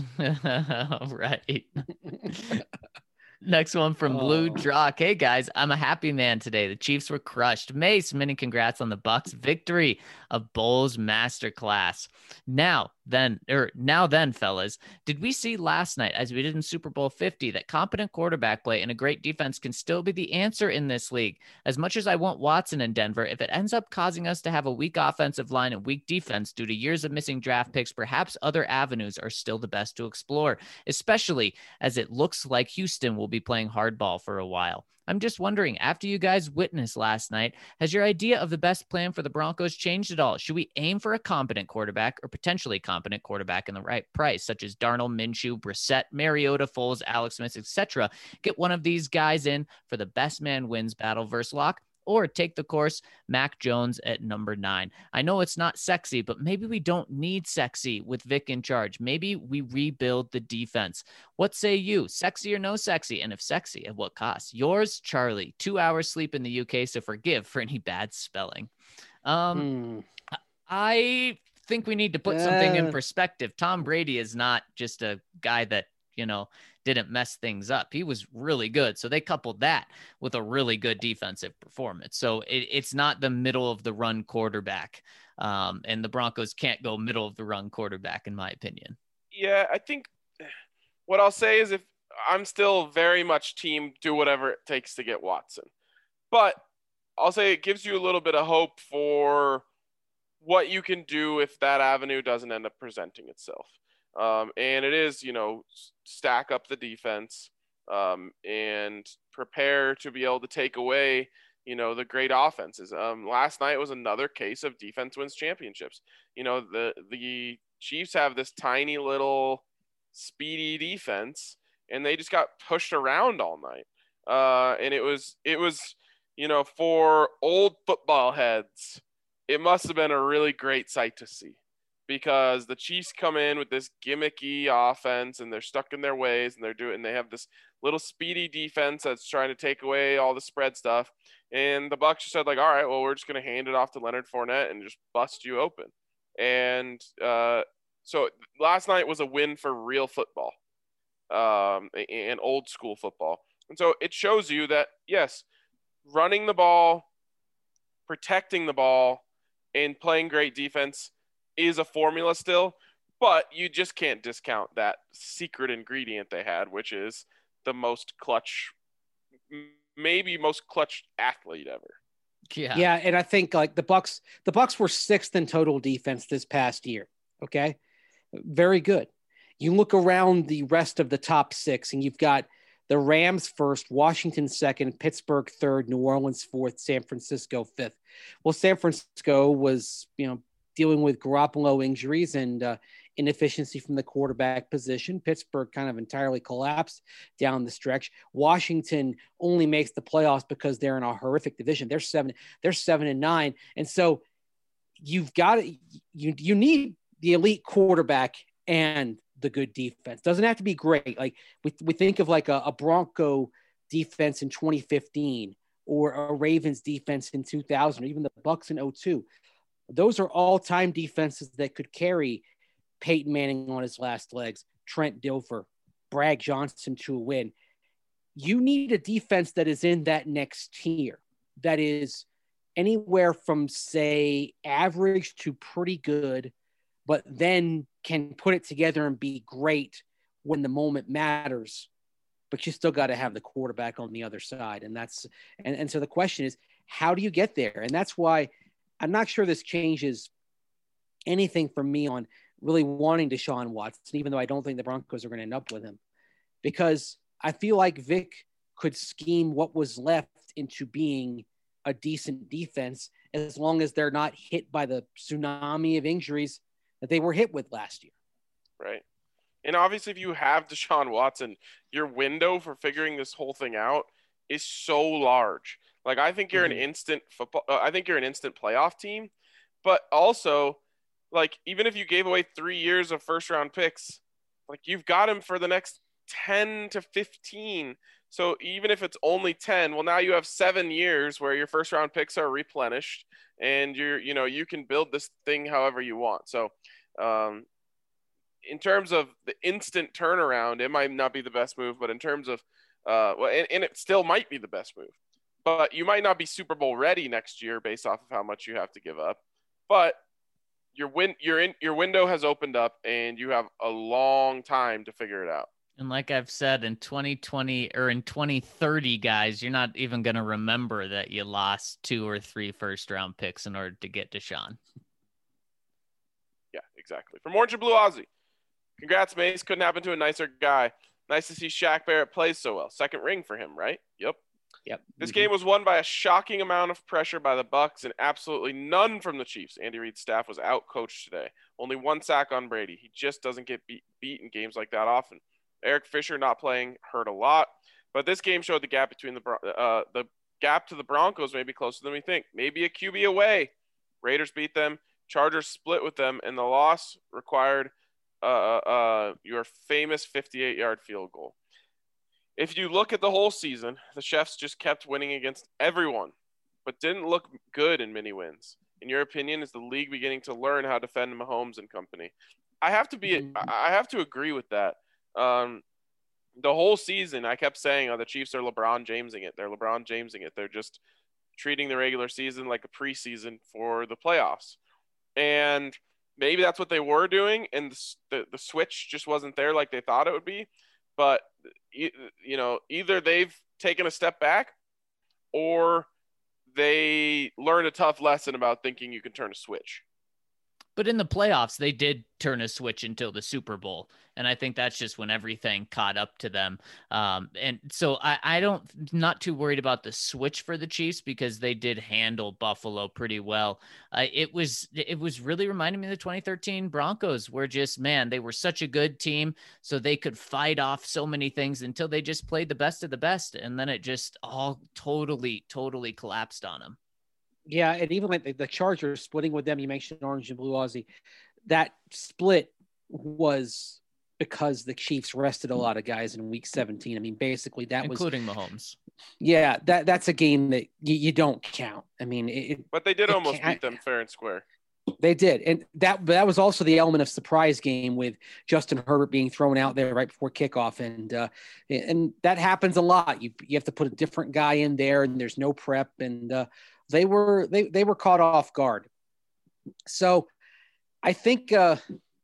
Right. Next one from Blue Oh. Drock. Hey guys, I'm a happy man today. The Chiefs were crushed. Mace, many congrats on the Bucks victory of Bowles Masterclass. Now then, or now then, fellas, did we see last night, as we did in Super Bowl fifty, that competent quarterback play and a great defense can still be the answer in this league? As much as I want Watson in Denver, if it ends up causing us to have a weak offensive line and weak defense due to years of missing draft picks, perhaps other avenues are still the best to explore, especially as it looks like Houston will be playing hardball for a while. I'm just wondering, after you guys witnessed last night, has your idea of the best plan for the Broncos changed at all? Should we aim for a competent quarterback or potentially competent quarterback in the right price, such as Darnold, Minshew, Brissett, Mariota, Foles, Alex Smith, et cetera? Get one of these guys in for the best man wins battle versus Lock, or take the course Mac Jones at number nine. I know it's not sexy, but maybe we don't need sexy with Vic in charge. Maybe we rebuild the defense. What say you? Sexy or no sexy? And if sexy, at what cost? Yours, Charlie. Two hours sleep in the U K, so forgive for any bad spelling. Um, Hmm. I think we need to put something in Uh. perspective. Tom Brady is not just a guy that, you know, didn't mess things up. He was really good. So they coupled that with a really good defensive performance. So it, it's not the middle of the run quarterback. Um, and the Broncos can't go middle of the run quarterback, in my opinion. Yeah, I think what I'll say is if I'm still very much team do whatever it takes to get Watson. But I'll say it gives you a little bit of hope for what you can do if that avenue doesn't end up presenting itself. Um, and it is, you know, stack up the defense um, and prepare to be able to take away, you know, the great offenses. Um, last night was another case of defense wins championships. You know, the the Chiefs have this tiny little speedy defense, and they just got pushed around all night. Uh, and it was it was, you know, for old football heads, it must have been a really great sight to see. Because the Chiefs come in with this gimmicky offense and they're stuck in their ways and they're doing, and they have this little speedy defense that's trying to take away all the spread stuff. And the Bucs just said like, all right, well, we're just going to hand it off to Leonard Fournette and just bust you open. And uh, so last night was a win for real football um, and old school football. And so it shows you that, yes, running the ball, protecting the ball, and playing great defense is a formula still, but you just can't discount that secret ingredient they had, which is the most clutch maybe most clutch athlete ever. Yeah. Yeah, and I think like the Bucks, the Bucks were sixth in total defense this past year. Okay, very good. You look around the rest of the top six, and you've got the Rams first, Washington second, Pittsburgh third, New Orleans fourth, San Francisco fifth. Well, San Francisco was, you know, dealing with Garoppolo injuries and uh, inefficiency from the quarterback position. Pittsburgh kind of entirely collapsed down the stretch. Washington only makes the playoffs because they're in a horrific division. They're seven, they're seven and nine. And so you've got to, you, you need the elite quarterback and the good defense. Doesn't have to be great. Like we, we think of like a, a Bronco defense in twenty fifteen or a Ravens defense in two thousand, or even the Bucks in oh two. Those are all-time defenses that could carry Peyton Manning on his last legs, Trent Dilfer, Brad Johnson to a win. You need a defense that is in that next tier, that is anywhere from, say, average to pretty good, but then can put it together and be great when the moment matters. But you still got to have the quarterback on the other side. And that's, and, and so the question is, how do you get there? And that's why I'm not sure this changes anything for me on really wanting Deshaun Watson, even though I don't think the Broncos are going to end up with him, because I feel like Vic could scheme what was left into being a decent defense as long as they're not hit by the tsunami of injuries that they were hit with last year. Right. And obviously, if you have Deshaun Watson, your window for figuring this whole thing out is so large. Like, I think you're mm-hmm. an instant football. Uh, I think you're an instant playoff team. But also, like, even if you gave away three years of first round picks, like, you've got him for the next ten to fifteen. So even if it's only ten, well, now you have seven years where your first round picks are replenished, and you're, you know, you can build this thing however you want. So, um, in terms of the instant turnaround, it might not be the best move, but in terms of, uh, well, and, and it still might be the best move. But you might not be Super Bowl ready next year based off of how much you have to give up. But your win, your in, your window has opened up, and you have a long time to figure it out. And like I've said, in twenty twenty or in twenty thirty, guys, you're not even going to remember that you lost two or three first round picks in order to get Deshaun. Yeah, exactly. From Orange and Blue Aussie, congrats, Mace. Couldn't happen to a nicer guy. Nice to see Shaq Barrett play so well. Second ring for him, right? Yep. Yep. This mm-hmm. game was won by a shocking amount of pressure by the Bucks and absolutely none from the Chiefs. Andy Reid's staff was out-coached today. Only one sack on Brady. He just doesn't get beat, beat in games like that often. Eric Fisher not playing hurt a lot, but this game showed the gap between the uh, the gap to the Broncos may be closer than we think. Maybe a Q B away. Raiders beat them. Chargers split with them, and the loss required uh, uh, your famous fifty-eight-yard field goal. If you look at the whole season, the Chefs just kept winning against everyone, but didn't look good in many wins. In your opinion, is the league beginning to learn how to defend Mahomes and company? I have to be, I have to agree with that. Um, the whole season, I kept saying, "Oh, the Chiefs are LeBron Jamesing it. They're LeBron Jamesing it. They're just treating the regular season like a preseason for the playoffs." And maybe that's what they were doing, and the the, the switch just wasn't there like they thought it would be. But you know, either they've taken a step back, or they learned a tough lesson about thinking you can turn a switch. But in the playoffs, they did turn a switch until the Super Bowl. And I think that's just when everything caught up to them. Um, and so I, I don't, not too worried about the switch for the Chiefs because they did handle Buffalo pretty well. Uh, it was, it was really reminding me of the twenty thirteen Broncos were just, man, they were such a good team. So they could fight off so many things until they just played the best of the best. And then it just all totally, totally collapsed on them. Yeah, and even like the, the Chargers splitting with them, you mentioned Orange and Blue Aussie, that split was because the Chiefs rested a lot of guys in week seventeen. I mean, basically that including was including Mahomes. Yeah, that that's a game that you, you don't count. I mean, it, but they did almost beat them fair and square. They did, and that that was also the element of surprise game with Justin Herbert being thrown out there right before kickoff, and uh, and that happens a lot. You you have to put a different guy in there, and there's no prep, and uh, They were they they were caught off guard. So I think uh,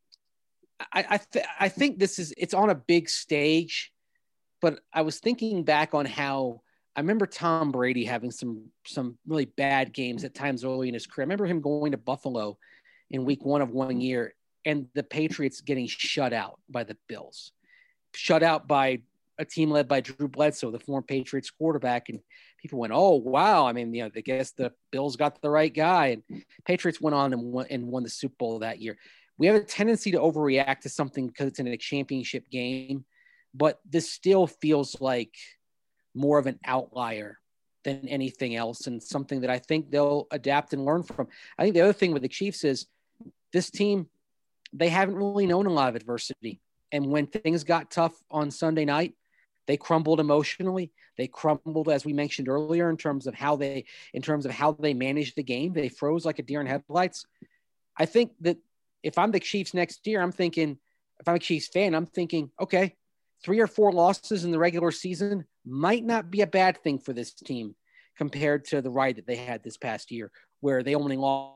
I I, th- I think this is it's on a big stage, but I was thinking back on how I remember Tom Brady having some some really bad games at times early in his career. I remember him going to Buffalo in week one of one year and the Patriots getting shut out by the Bills, shut out by a team led by Drew Bledsoe, the former Patriots quarterback. And people went, oh, wow. I mean, you know, I guess the Bills got the right guy. And Patriots went on and won, and won the Super Bowl that year. We have a tendency to overreact to something because it's in a championship game, but this still feels like more of an outlier than anything else, and something that I think they'll adapt and learn from. I think the other thing with the Chiefs is this team, they haven't really known a lot of adversity. And when things got tough on Sunday night, they crumbled emotionally. They crumbled, as we mentioned earlier, in terms of how they, in terms of how they managed the game. They froze like a deer in headlights. I think that if I'm the Chiefs next year, I'm thinking, if I'm a Chiefs fan, I'm thinking, okay, three or four losses in the regular season might not be a bad thing for this team compared to the ride that they had this past year, where they only lost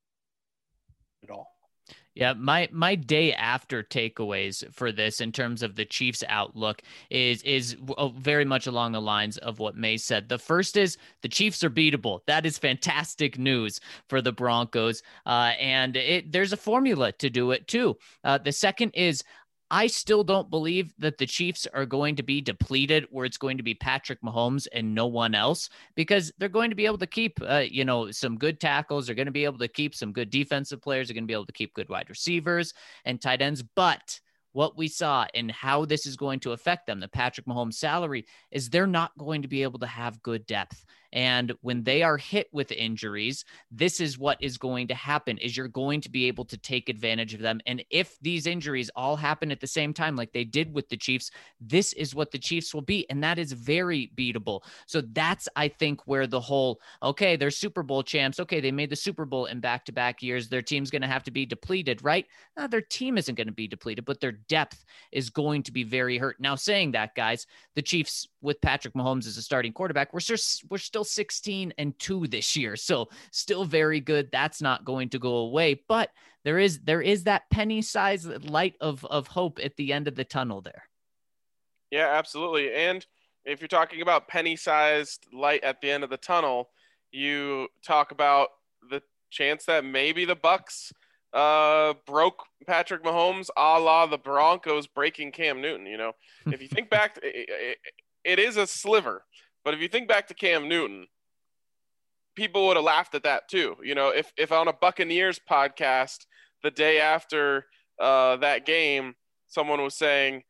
at all. Yeah, my my day after takeaways for this in terms of the Chiefs' outlook is is very much along the lines of what May said. The first is the Chiefs are beatable. That is fantastic news for the Broncos, uh, and it, there's a formula to do it too. Uh, the second is, I still don't believe that the Chiefs are going to be depleted where it's going to be Patrick Mahomes and no one else, because they're going to be able to keep, uh, you know, some good tackles. They're going to be able to keep some good defensive players. They're going to be able to keep good wide receivers and tight ends. But what we saw and how this is going to affect them, the Patrick Mahomes salary, is they're not going to be able to have good depth. And when they are hit with injuries, this is what is going to happen, is you're going to be able to take advantage of them. And if these injuries all happen at the same time, like they did with the Chiefs, this is what the Chiefs will be. And that is very beatable. So that's, I think, where the whole, okay, they're Super Bowl champs. Okay, they made the Super Bowl in back-to-back years. Their team's going to have to be depleted, right? No, their team isn't going to be depleted, but their depth is going to be very hurt. Now, saying that, guys, the Chiefs with Patrick Mahomes as a starting quarterback, we're still, we're still sixteen and two this year. So still very good. That's not going to go away, but there is, there is that penny sized light of, of hope at the end of the tunnel there. Yeah, absolutely. And if you're talking about penny sized light at the end of the tunnel, you talk about the chance that maybe the Bucs uh, broke Patrick Mahomes a la the Broncos breaking Cam Newton. You know, if you think back, to, it, it, it is a sliver. But if you think back to Cam Newton, people would have laughed at that too. You know, if, if on a Buccaneers podcast the day after uh, that game, someone was saying,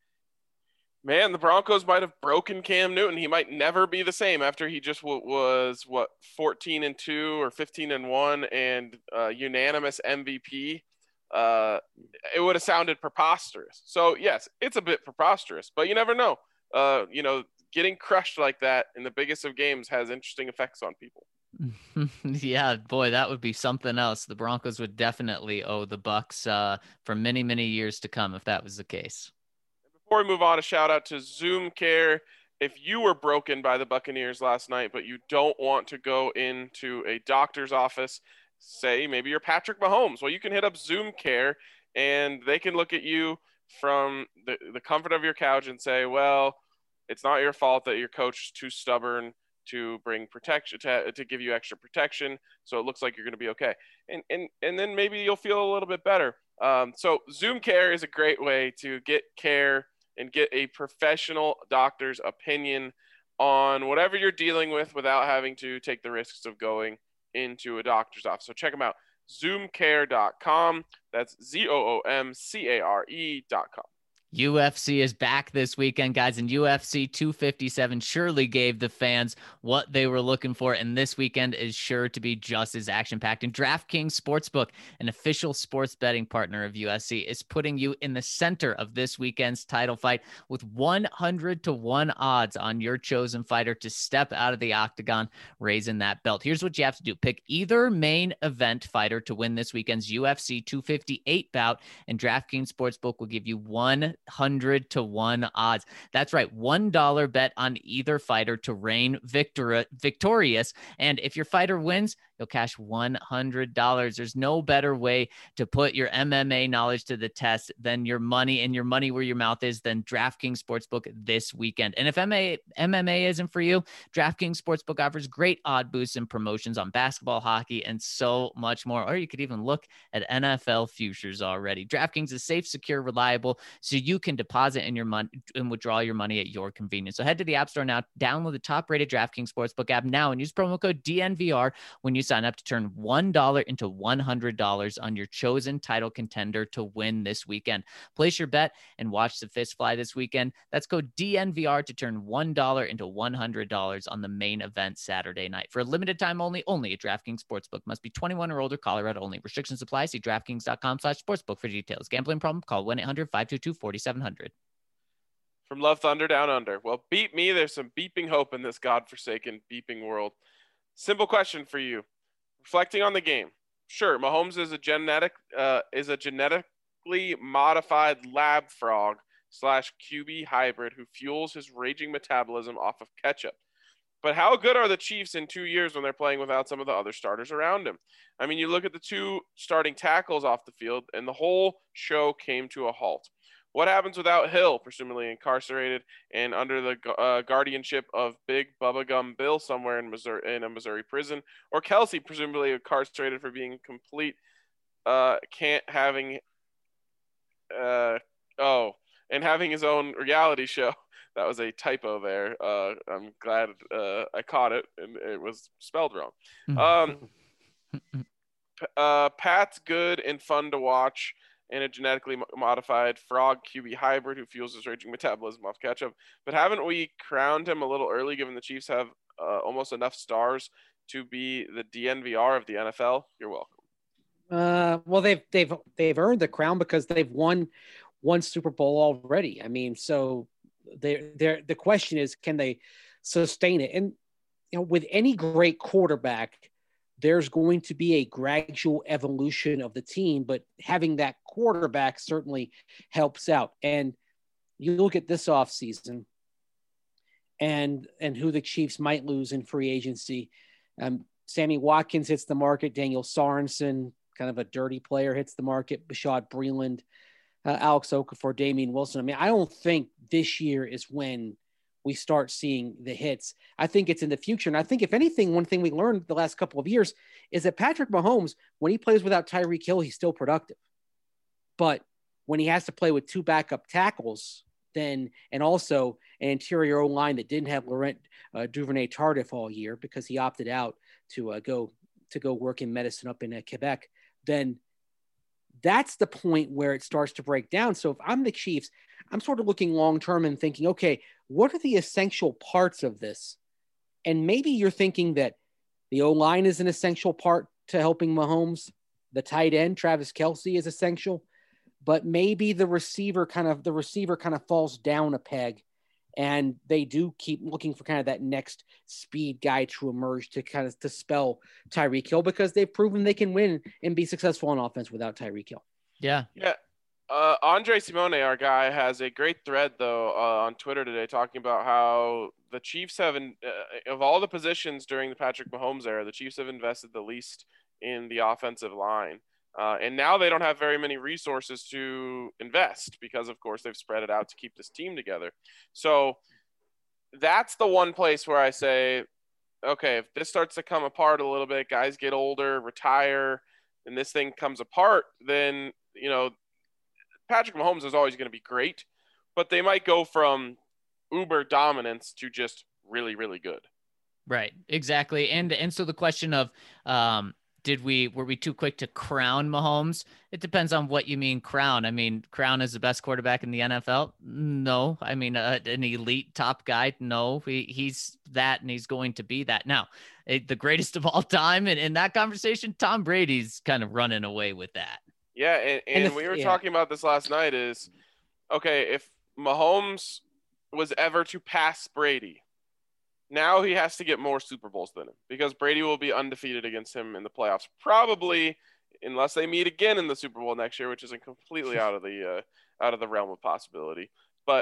man, the Broncos might have broken Cam Newton. He might never be the same after he just w- was, what, fourteen and two or fifteen and one and uh, unanimous M V P. Uh, it would have sounded preposterous. So, yes, it's a bit preposterous, but you never know. Uh, you know, getting crushed like that in the biggest of games has interesting effects on people. Yeah, boy, that would be something else. The Broncos would definitely owe the Bucs uh, for many, many years to come if that was the case. Before we move on, a shout out to Zoom Care. If you were broken by the Buccaneers last night, but you don't want to go into a doctor's office, say maybe you're Patrick Mahomes, well, you can hit up Zoom Care and they can look at you from the, the comfort of your couch and say, well, it's not your fault that your coach is too stubborn to bring protection, to, to give you extra protection. So it looks like you're going to be okay. And, and, and then maybe you'll feel a little bit better. Um, so Zoom Care is a great way to get care and get a professional doctor's opinion on whatever you're dealing with without having to take the risks of going into a doctor's office. So check them out, zoom care dot com. That's Z O O M C A R E dot com. U F C is back this weekend, guys, and U F C two fifty-seven surely gave the fans what they were looking for, and this weekend is sure to be just as action-packed. And DraftKings Sportsbook, an official sports betting partner of U F C, is putting you in the center of this weekend's title fight with one hundred to one odds on your chosen fighter to step out of the octagon, raising that belt. Here's what you have to do. Pick either main event fighter to win this weekend's U F C two fifty-eight bout, and DraftKings Sportsbook will give you one hundred to one odds. That's right. one dollar bet on either fighter to reign victor- victorious. And if your fighter wins, you'll cash one hundred dollars. There's no better way to put your M M A knowledge to the test than your money and your money where your mouth is than DraftKings Sportsbook this weekend. And if M M A isn't for you, DraftKings Sportsbook offers great odd boosts and promotions on basketball, hockey, and so much more. Or you could even look at N F L futures already. DraftKings is safe, secure, reliable, so you can deposit in your money and withdraw your money at your convenience. So head to the App Store now, download the top-rated DraftKings Sportsbook app now, and use promo code D N V R when you sign up to turn one dollar into one hundred dollars on your chosen title contender to win this weekend. Place your bet and watch the fist fly this weekend. That's code D N V R to turn one dollar into one hundred dollars on the main event Saturday night. For a limited time only, only at DraftKings Sportsbook. Must be twenty-one or older, Colorado only. Restrictions apply. See DraftKings.com slash sportsbook for details. Gambling problem? Call one eight hundred five two two four seven zero zero. From Love Thunder Down Under. Well, beat me. There's some beeping hope in this godforsaken beeping world. Simple question for you. Reflecting on the game. Sure, Mahomes is a genetic uh, is a genetically modified lab frog slash Q B hybrid who fuels his raging metabolism off of ketchup. But how good are the Chiefs in two years when they're playing without some of the other starters around him? I mean, you look at the two starting tackles off the field, and the whole show came to a halt. What happens without Hill, presumably incarcerated and under the uh, guardianship of Big Bubba Gum Bill somewhere in Missouri, in a Missouri prison, or Kelsey, presumably incarcerated for being complete, uh, can't having, uh, oh, and having his own reality show. That was a typo there. Uh, I'm glad uh, I caught it, and it was spelled wrong. Um, uh, Pat's good and fun to watch, and a genetically modified frog Q B hybrid who fuels his raging metabolism off ketchup. But haven't we crowned him a little early, given the Chiefs have uh, almost enough stars to be the D N V R of the N F L? You're welcome. Uh, well, they've they've they've earned the crown because they've won one Super Bowl already. I mean, so they they the question is, can they sustain it? And you know, with any great quarterback, there's going to be a gradual evolution of the team, but having that quarterback certainly helps out. And you look at this offseason and and who the Chiefs might lose in free agency. Um, Sammy Watkins hits the market. Daniel Sorensen, kind of a dirty player, hits the market. Bashad Breeland, uh, Alex Okafor, Damian Wilson. I mean, I don't think this year is when we start seeing the hits. I think it's in the future. And I think if anything, one thing we learned the last couple of years is that Patrick Mahomes, when he plays without Tyreek Hill, he's still productive. But when he has to play with two backup tackles, then, and also an interior O-line that didn't have Laurent uh, Duvernay-Tardif all year because he opted out to uh, go to go work in medicine up in uh, Quebec, then that's the point where it starts to break down. So if I'm the Chiefs, I'm sort of looking long-term and thinking, okay, what are the essential parts of this? And maybe you're thinking that the O-line is an essential part to helping Mahomes. The tight end, Travis Kelce, is essential, but maybe the receiver kind of, the receiver kind of falls down a peg, and they do keep looking for kind of that next speed guy to emerge to kind of to spell Tyreek Hill, because they've proven they can win and be successful on offense without Tyreek Hill. Yeah. Yeah. Uh, Andre Simone, our guy, has a great thread, though, uh, on Twitter today talking about how the Chiefs have, in, uh, of all the positions during the Patrick Mahomes era, the Chiefs have invested the least in the offensive line. Uh, and now they don't have very many resources to invest because, of course, they've spread it out to keep this team together. So that's the one place where I say, okay, if this starts to come apart a little bit, guys get older, retire, and this thing comes apart, then, you know, Patrick Mahomes is always going to be great, but they might go from uber dominance to just really, really good. Right. Exactly. And, and so the question of, um, did we, were we too quick to crown Mahomes? It depends on what you mean crown. I mean, crown is the best quarterback in the N F L. No. I mean, uh, an elite top guy. No, he, he's that, and he's going to be that. Now, it, the greatest of all time. And in that conversation, Tom Brady's kind of running away with that. Yeah, and, and, and if, we were yeah. talking about this last night is, okay, if Mahomes was ever to pass Brady, now he has to get more Super Bowls than him, because Brady will be undefeated against him in the playoffs, probably unless they meet again in the Super Bowl next year, which isn't completely out of the uh, out of the realm of possibility. But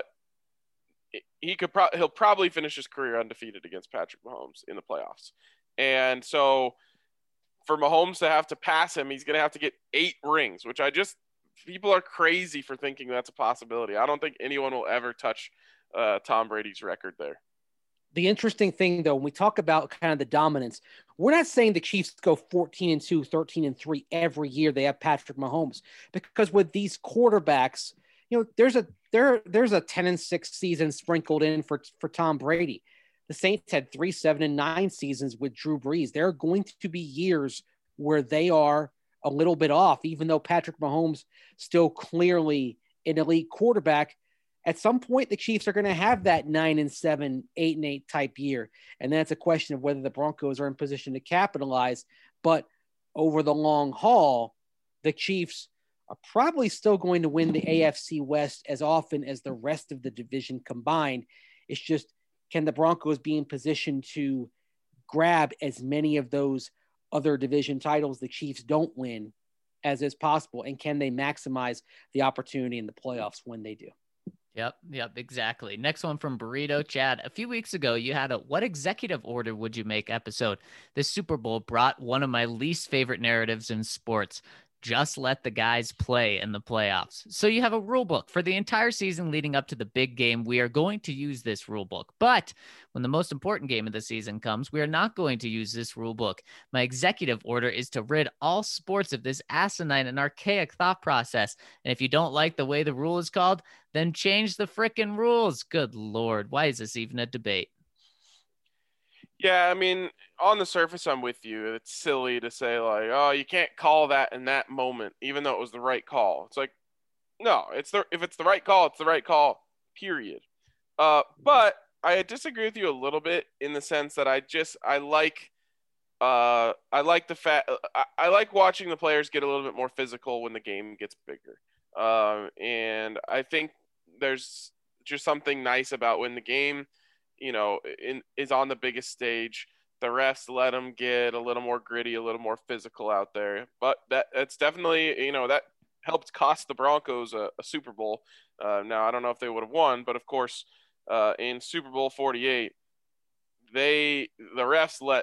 he could pro- he'll probably finish his career undefeated against Patrick Mahomes in the playoffs. And so for Mahomes to have to pass him, he's going to have to get eight rings, which I just people are crazy for thinking that's a possibility. I don't think anyone will ever touch uh, Tom Brady's record there. The interesting thing, though, when we talk about kind of the dominance, we're not saying the Chiefs go fourteen and two, thirteen and three every year they have Patrick Mahomes, because with these quarterbacks, you know, there's a there there's a ten and six season sprinkled in for for Tom Brady. The Saints had three, seven, and nine seasons with Drew Brees. There are going to be years where they are a little bit off, even though Patrick Mahomes still clearly an elite quarterback. At some point, the Chiefs are going to have that nine and seven, eight and eight type year. And that's a question of whether the Broncos are in position to capitalize. But over the long haul, the Chiefs are probably still going to win the A F C West as often as the rest of the division combined. It's just, can the Broncos be in position to grab as many of those other division titles the Chiefs don't win as is possible? And can they maximize the opportunity in the playoffs when they do? Yep, yep, exactly. Next one from Burrito Chad. A few weeks ago, you had a "What executive order would you make" episode. This Super Bowl brought one of my least favorite narratives in sports. Just let the guys play in the playoffs. So you have a rule book for the entire season leading up to the big game. We are going to use this rule book. But when the most important game of the season comes, we are not going to use this rule book. My executive order is to rid all sports of this asinine and archaic thought process. And if you don't like the way the rule is called, then change the frickin' rules. Good Lord. Why is this even a debate? Yeah, I mean, on the surface, I'm with you. It's silly to say, like, oh, you can't call that in that moment, even though it was the right call. It's like, no, it's the if it's the right call, it's the right call, period. Uh, but I disagree with you a little bit in the sense that I just I like uh I like the fact I, I like watching the players get a little bit more physical when the game gets bigger. Um, and I think there's just something nice about when the game, you know, in, is on the biggest stage. The refs let them get a little more gritty, a little more physical out there. But that that's definitely, you know, that helped cost the Broncos a, a Super Bowl. Uh, now, I don't know if they would have won, but of course, uh, in Super Bowl forty-eight, they the refs let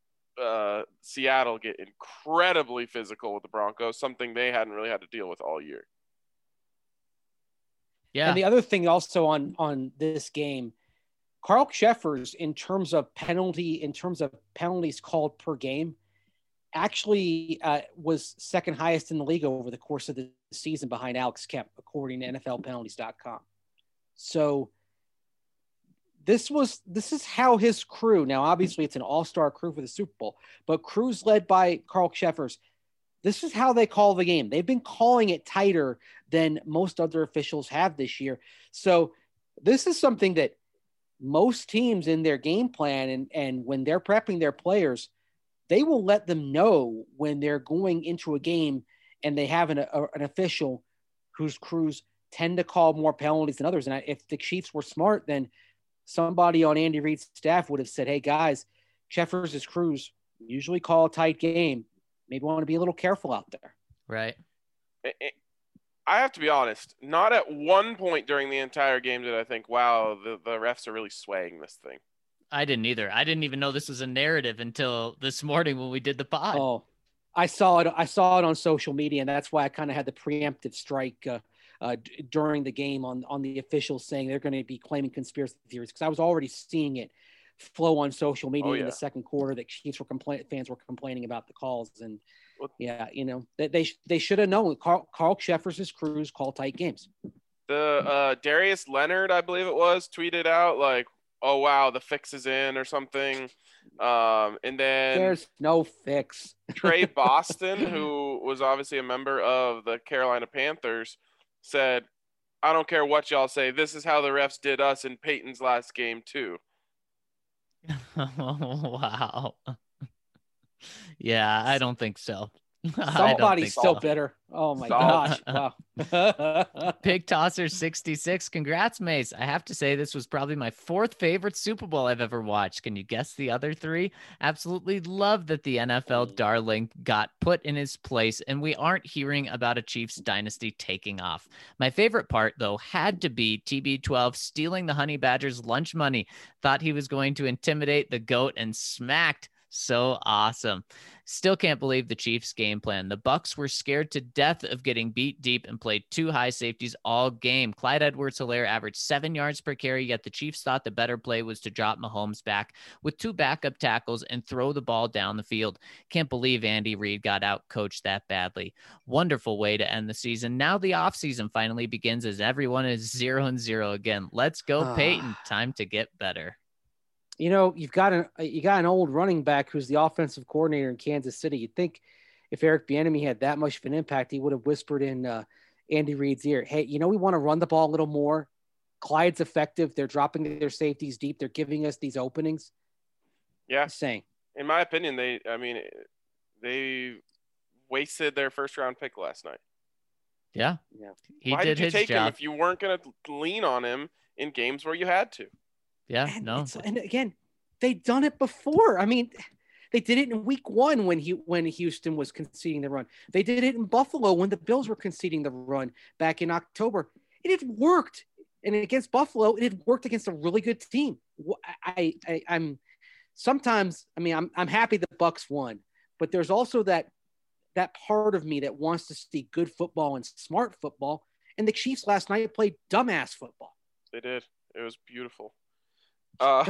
uh, Seattle get incredibly physical with the Broncos, something they hadn't really had to deal with all year. Yeah. And the other thing also on on this game, Carl Cheffers, in terms of penalty, in terms of penalties called per game, actually uh, was second highest in the league over the course of the season behind Alex Kemp, according to N F L penalties dot com. So this was, this is how his crew, now obviously it's an all-star crew for the Super Bowl, but crews led by Carl Cheffers, this is how they call the game. They've been calling it tighter than most other officials have this year. So this is something that most teams in their game plan and, and when they're prepping their players, they will let them know when they're going into a game and they have an, a, an official whose crews tend to call more penalties than others. And if the Chiefs were smart, then somebody on Andy Reid's staff would have said, hey guys, Cheffers' crews usually call a tight game. Maybe want to be a little careful out there. Right. I have to be honest, not at one point during the entire game did I think, wow, the, the refs are really swaying this thing. I didn't either. I didn't even know this was a narrative until this morning when we did the pod. Oh, I saw it. I saw it on social media, and that's why I kind of had the preemptive strike uh, uh, d- during the game on, on the officials saying they're going to be claiming conspiracy theories, because I was already seeing it flow on social media oh, yeah. in the second quarter that Chiefs were compla- fans were complaining about the calls. And yeah, you know, they they, they should have known Carl, Carl Cheffers' crews call tight games. The uh, Darius Leonard, I believe it was, tweeted out like, oh, wow, the fix is in or something. Um, and then there's no fix. Trey Boston, who was obviously a member of the Carolina Panthers, said, I don't care what y'all say. This is how the refs did us in Peyton's last game too. Wow. Yeah, I don't think so. Somebody's still so. bitter. Oh my Solved. gosh. Wow. Pig Tosser sixty-six. Congrats, Mace. I have to say this was probably my fourth favorite Super Bowl I've ever watched. Can you guess the other three? Absolutely love that the N F L darling got put in his place and we aren't hearing about a Chiefs dynasty taking off. My favorite part, though, had to be T B twelve stealing the Honey Badgers' lunch money. Thought he was going to intimidate the GOAT and smacked. So awesome. Still can't believe the Chiefs game plan. The Bucs were scared to death of getting beat deep and played two high safeties all game. Clyde Edwards-Helaire averaged seven yards per carry, yet the Chiefs thought the better play was to drop Mahomes back with two backup tackles and throw the ball down the field. Can't believe Andy Reid got out coached that badly. Wonderful way to end the season. Now the offseason finally begins as everyone is zero and zero again. Let's go, Peyton. Time to get better. You know, you've got an you got an old running back who's the offensive coordinator in Kansas City. You'd think if Eric Bieniemy had that much of an impact, he would have whispered in uh, Andy Reid's ear, "Hey, you know, we want to run the ball a little more. Clyde's effective. They're dropping their safeties deep. They're giving us these openings." Yeah, Just saying. In my opinion, they I mean they wasted their first round pick last night. Yeah, yeah. He Why did, did you his take job. him if you weren't going to lean on him in games where you had to? Yeah, And no. it's- and again, they've done it before. I mean, they did it in week one when he when Houston was conceding the run. They did it in Buffalo when the Bills were conceding the run back in October. It had worked. And against Buffalo, it had worked against a really good team. I, I, I'm sometimes, I mean, I'm I'm happy the Bucs won, but there's also that that part of me that wants to see good football and smart football. And the Chiefs last night played dumbass football. They did. It was beautiful. Um,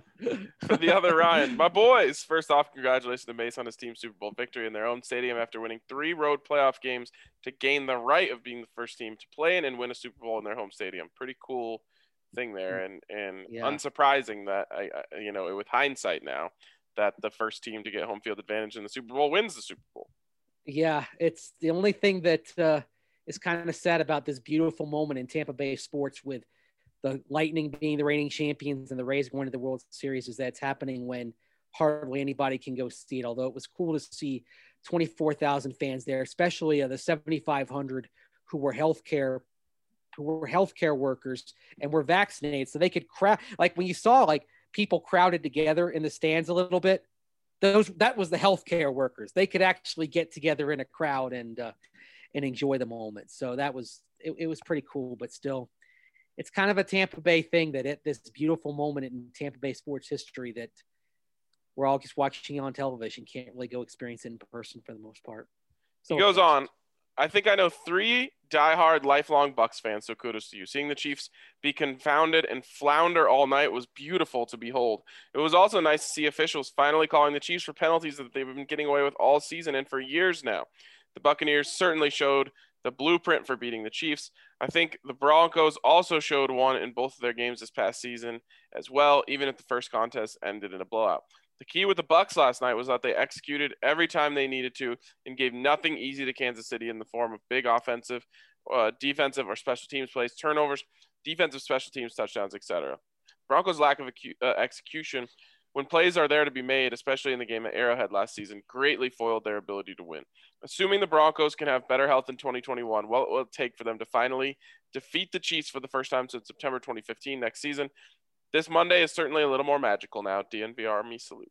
for the other Ryan, my boys. First off, congratulations to Mace on his team's Super Bowl victory in their own stadium after winning three road playoff games to gain the right of being the first team to play in and win a Super Bowl in their home stadium. Pretty cool thing there, and and Yeah. unsurprising that I, I you know with hindsight now that the first team to get home field advantage in the Super Bowl wins the Super Bowl. Yeah, it's the only thing that uh, is kind of sad about this beautiful moment in Tampa Bay sports with the Lightning being the reigning champions and the Rays going to the World Series is that it's happening when hardly anybody can go see it. Although it was cool to see twenty-four thousand fans there, especially uh, the seventy-five hundred who were healthcare, who were healthcare workers and were vaccinated, so they could crowd. Like when you saw like people crowded together in the stands a little bit, those that was the healthcare workers. They could actually get together in a crowd and uh, and enjoy the moment. So that was it, it was pretty cool, but still. It's kind of a Tampa Bay thing that at this beautiful moment in Tampa Bay sports history that we're all just watching on television, can't really go experience it in person for the most part. So He goes on. I think I know three diehard lifelong Bucs fans, so kudos to you. Seeing the Chiefs be confounded and flounder all night was beautiful to behold. It was also nice to see officials finally calling the Chiefs for penalties that they've been getting away with all season and for years now. The Buccaneers certainly showed the blueprint for beating the Chiefs. I think the Broncos also showed one in both of their games this past season as well, even if the first contest ended in a blowout. The key with the Bucs last night was that they executed every time they needed to and gave nothing easy to Kansas City in the form of big offensive, uh, defensive, or special teams plays, turnovers, defensive, special teams, touchdowns, et cetera. Broncos' lack of acu- uh, execution when plays are there to be made, especially in the game at Arrowhead last season, greatly foiled their ability to win. Assuming the Broncos can have better health in twenty twenty-one, what will it take for them to finally defeat the Chiefs for the first time since September twenty fifteen next season? This Monday is certainly a little more magical now. D N V R, me salute.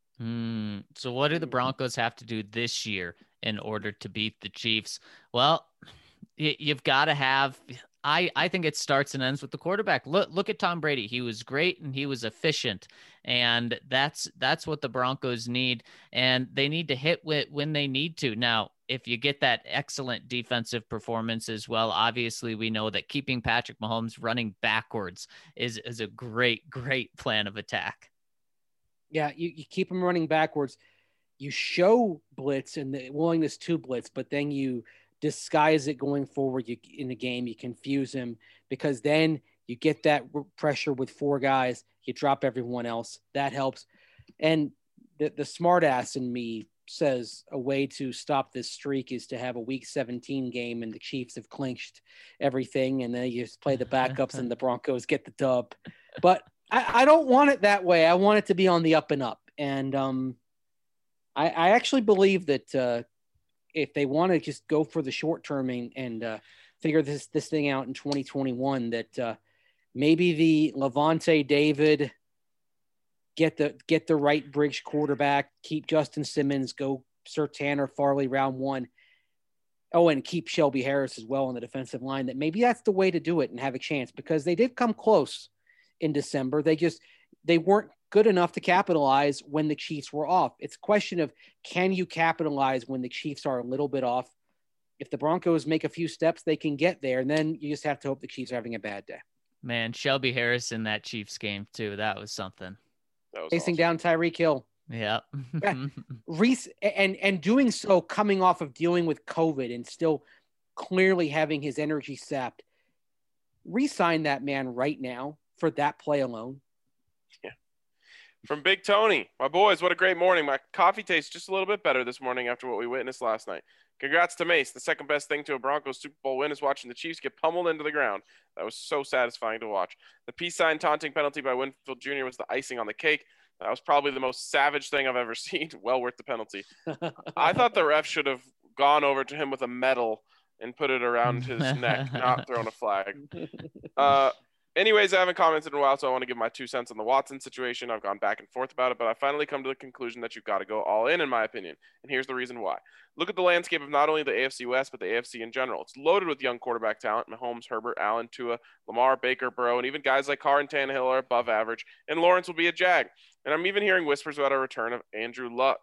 Hmm. So what do the Broncos have to do this year in order to beat the Chiefs? Well, y- you've got to have I, I think it starts and ends with the quarterback. Look look at Tom Brady. He was great and he was efficient. And that's that's what the Broncos need. And they need to hit with when they need to. Now, if you get that excellent defensive performance as well, obviously we know that keeping Patrick Mahomes running backwards is, is a great, great plan of attack. Yeah, you, you keep them running backwards. You show blitz and the willingness to blitz, but then you disguise it going forward you, in the game. You confuse him because then you get that pressure with four guys. You drop everyone else. That helps. And the, the smart ass in me says a way to stop this streak is to have a week seventeen game and the Chiefs have clinched everything. And then you just play the backups and the Broncos get the dub. But I, I don't want it that way. I want it to be on the up and up. And um, I, I actually believe that uh, if they want to just go for the short term and, and uh, figure this this thing out in twenty twenty-one, that uh, maybe the Levante David get the get the right bridge quarterback, keep Justin Simmons, go Surtain or Farley round one. Oh, and keep Shelby Harris as well on the defensive line. That maybe that's the way to do it and have a chance, because they did come close in December. They just they weren't good enough to capitalize when the Chiefs were off. It's a question of, can you capitalize when the Chiefs are a little bit off? If the Broncos make a few steps, they can get there, and then you just have to hope the Chiefs are having a bad day. Man, Shelby Harris in that Chiefs game too. That was something. That was Chasing awesome. down Tyreek Hill. Yeah. Reese, and and doing so coming off of dealing with COVID and still clearly having his energy sapped. Re-sign that man right now for that play alone. Yeah. From Big Tony, my boys, what a great morning. My coffee tastes just a little bit better this morning after what we witnessed last night. Congrats to Mace. The second best thing to a Broncos Super Bowl win is watching the Chiefs get pummeled into the ground. That was so satisfying to watch. The peace sign taunting penalty by Winfield Junior was the icing on the cake. That was probably the most savage thing I've ever seen. Well worth the penalty. I thought the ref should have gone over to him with a medal and put it around his neck, not thrown a flag. Uh, anyways, I haven't commented in a while, so I want to give my two cents on the Watson situation. I've gone back and forth about it, but I finally come to the conclusion that you've got to go all in, in my opinion. And here's the reason why. Look at the landscape of not only the A F C West, but the A F C in general. It's loaded with young quarterback talent. Mahomes, Herbert, Allen, Tua, Lamar, Baker, Burrow, and even guys like Carr and Tannehill are above average, and Lawrence will be a Jag. And I'm even hearing whispers about a return of Andrew Luck.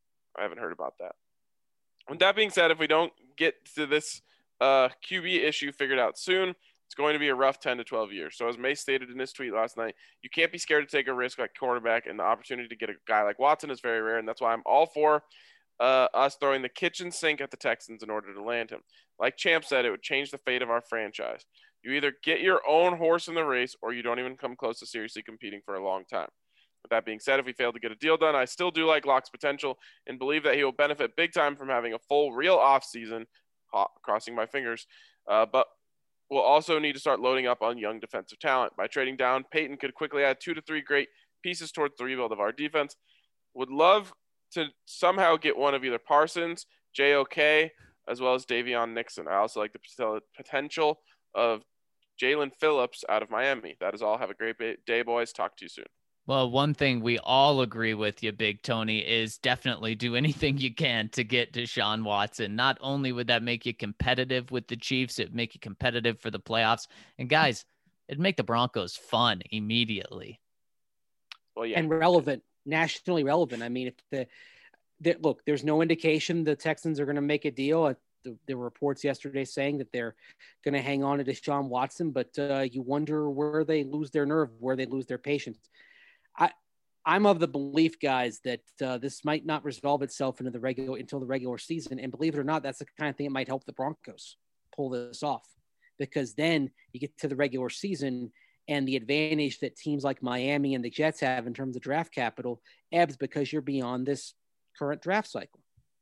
I haven't heard about that. With that being said, if we don't get to this uh, Q B issue figured out soon, it's going to be a rough ten to twelve years. So as Mace stated in his tweet last night, you can't be scared to take a risk like quarterback, and the opportunity to get a guy like Watson is very rare, and that's why I'm all for uh, us throwing the kitchen sink at the Texans in order to land him. Like Champ said, it would change the fate of our franchise. You either get your own horse in the race, or you don't even come close to seriously competing for a long time. With that being said, if we fail to get a deal done, I still do like Locke's potential and believe that he will benefit big time from having a full, real offseason, crossing my fingers, uh, but we'll also need to start loading up on young defensive talent. By trading down, Peyton could quickly add two to three great pieces towards the rebuild of our defense. Would love to somehow get one of either Parsons, J O K, as well as Davion Nixon. I also like the potential of Jalen Phillips out of Miami. That is all. Have a great day, boys. Talk to you soon. Well, one thing we all agree with you, Big Tony, is definitely do anything you can to get Deshaun Watson. Not only would that make you competitive with the Chiefs, it'd make you competitive for the playoffs. And guys, it'd make the Broncos fun immediately. Well, yeah. And relevant, nationally relevant. I mean, if the, the look, there's no indication the Texans are going to make a deal. The, there were reports yesterday saying that they're going to hang on to Deshaun Watson, but uh, you wonder where they lose their nerve, where they lose their patience. I, I'm of the belief, guys, that uh, this might not resolve itself into the regular until the regular season. And believe it or not, that's the kind of thing that might help the Broncos pull this off, because then you get to the regular season and the advantage that teams like Miami and the Jets have in terms of draft capital ebbs because you're beyond this current draft cycle.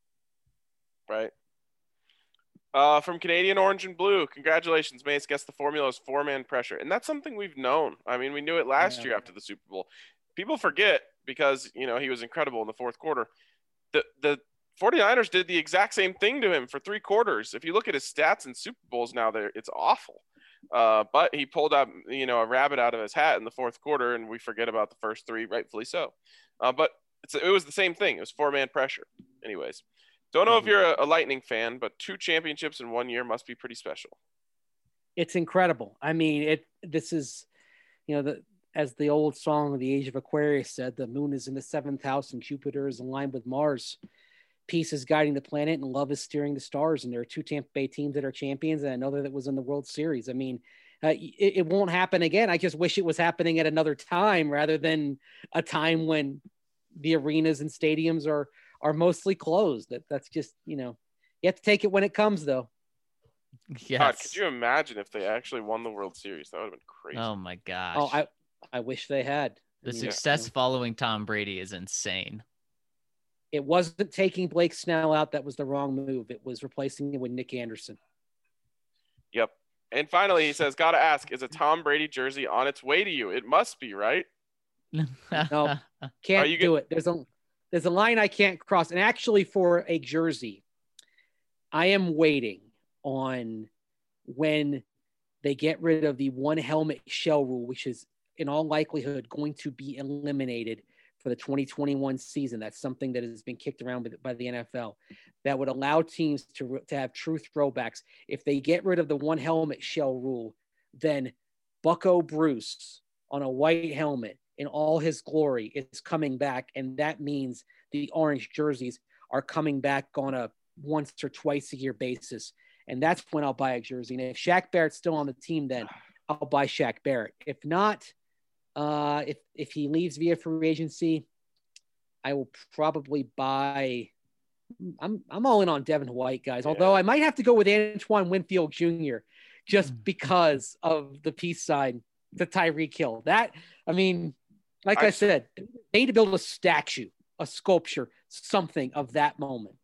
Right. Uh, from Canadian Orange and Blue, congratulations, Mace. Guess the formula is four-man pressure. And that's something we've known. I mean, we knew it last yeah. year after the Super Bowl. People forget because, you know, he was incredible in the fourth quarter. The the 49ers did the exact same thing to him for three quarters. If you look at his stats in Super Bowls now, there it's awful. Uh, but he pulled out, you know, a rabbit out of his hat in the fourth quarter, and we forget about the first three, rightfully so. Uh, but it's, it was the same thing. It was four-man pressure. Anyways, don't know mm-hmm. if you're a, a Lightning fan, but two championships in one year must be pretty special. It's incredible. I mean, it. This is, you know, the as the old song of the Age of Aquarius said, the moon is in the seventh house and Jupiter is aligned with Mars. Peace is guiding the planet and love is steering the stars. And there are two Tampa Bay teams that are champions and another that was in the World Series. I mean, uh, it, it won't happen again. I just wish it was happening at another time rather than a time when the arenas and stadiums are, are mostly closed. That That's just, you know, you have to take it when it comes, though. Yes. God, could you imagine if they actually won the World Series? That would have been crazy. Oh, my gosh. Oh, I, I wish they had. The I mean, success yeah. following Tom Brady is insane. It wasn't taking Blake Snell out that was the wrong move. It was replacing him with Nick Anderson. Yep. And finally, he says, gotta ask, is a Tom Brady jersey on its way to you? It must be, right? No, can't you do get- it. There's a there's a line I can't cross. And actually, for a jersey, I am waiting on when they get rid of the one helmet shell rule, which is in all likelihood going to be eliminated for the twenty twenty-one season. That's something that has been kicked around by the N F L that would allow teams to, to have true throwbacks. If they get rid of the one helmet shell rule, then Bucko Bruce on a white helmet in all his glory is coming back. And that means the orange jerseys are coming back on a once or twice a year basis. And that's when I'll buy a jersey. And if Shaq Barrett's still on the team, then I'll buy Shaq Barrett. If not, uh, if, if he leaves via free agency, I will probably buy, I'm, I'm all in on Devin White, guys. Although Yeah. I might have to go with Antoine Winfield Junior just because of the peace sign to Tyreek Hill. That, I mean, like I, I said, they need to build a statue, a sculpture, something of that moment.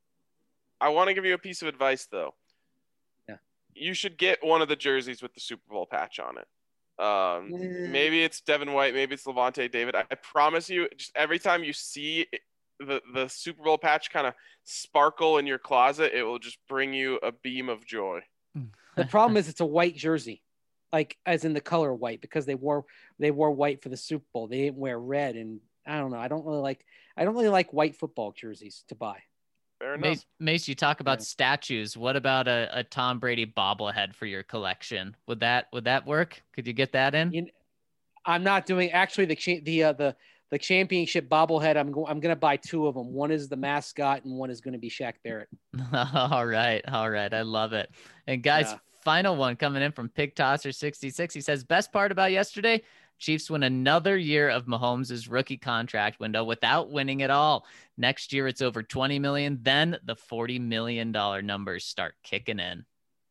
I want to give you a piece of advice, though. Yeah. You should get one of the jerseys with the Super Bowl patch on it. Um, Mm. Maybe it's Devin White, maybe it's Levante David. I, I promise you, just every time you see it, the, the Super Bowl patch kind of sparkle in your closet, it will just bring you a beam of joy. The problem is it's a white jersey, like as in the color white, because they wore they wore white for the Super Bowl. They didn't wear red, and I don't know. I don't really like I don't really like white football jerseys to buy. Fair enough. Mace, Mace, you talk about Yeah. statues. What about a, a Tom Brady bobblehead for your collection? Would that would that work? Could you get that in? You know, I'm not doing actually the cha- the uh, the the championship bobblehead. I'm go- I'm gonna buy two of them. One is the mascot, and one is going to be Shaq Barrett. All right, all right, I love it. And guys, Yeah. final one coming in from Pig Tosser sixty-six. He says, best part about yesterday, Chiefs win another year of Mahomes' rookie contract window without winning at all. Next year, it's over twenty million. Then the forty million dollars numbers start kicking in.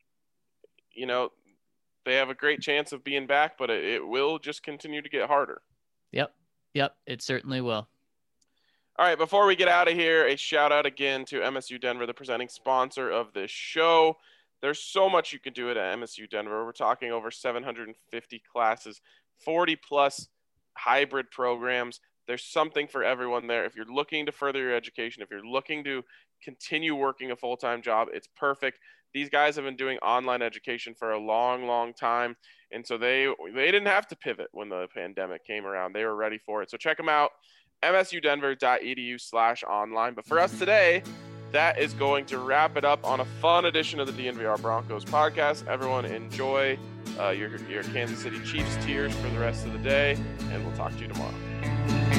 You know, they have a great chance of being back, but it, it will just continue to get harder. Yep, yep, it certainly will. All right, before we get out of here, a shout out again to M S U Denver, the presenting sponsor of this show. There's so much you can do at M S U Denver. We're talking over seven hundred fifty classes, forty plus hybrid programs. There's something for everyone there. If you're looking to further your education, if you're looking to continue working a full-time job, it's perfect. These guys have been doing online education for a long, long time. And so they they didn't have to pivot when the pandemic came around. They were ready for it. So check them out, m s u denver dot e d u slash online. But for us today, that is going to wrap it up on a fun edition of the D N V R Broncos podcast. Everyone enjoy uh, your, your Kansas City Chiefs tears for the rest of the day, and we'll talk to you tomorrow.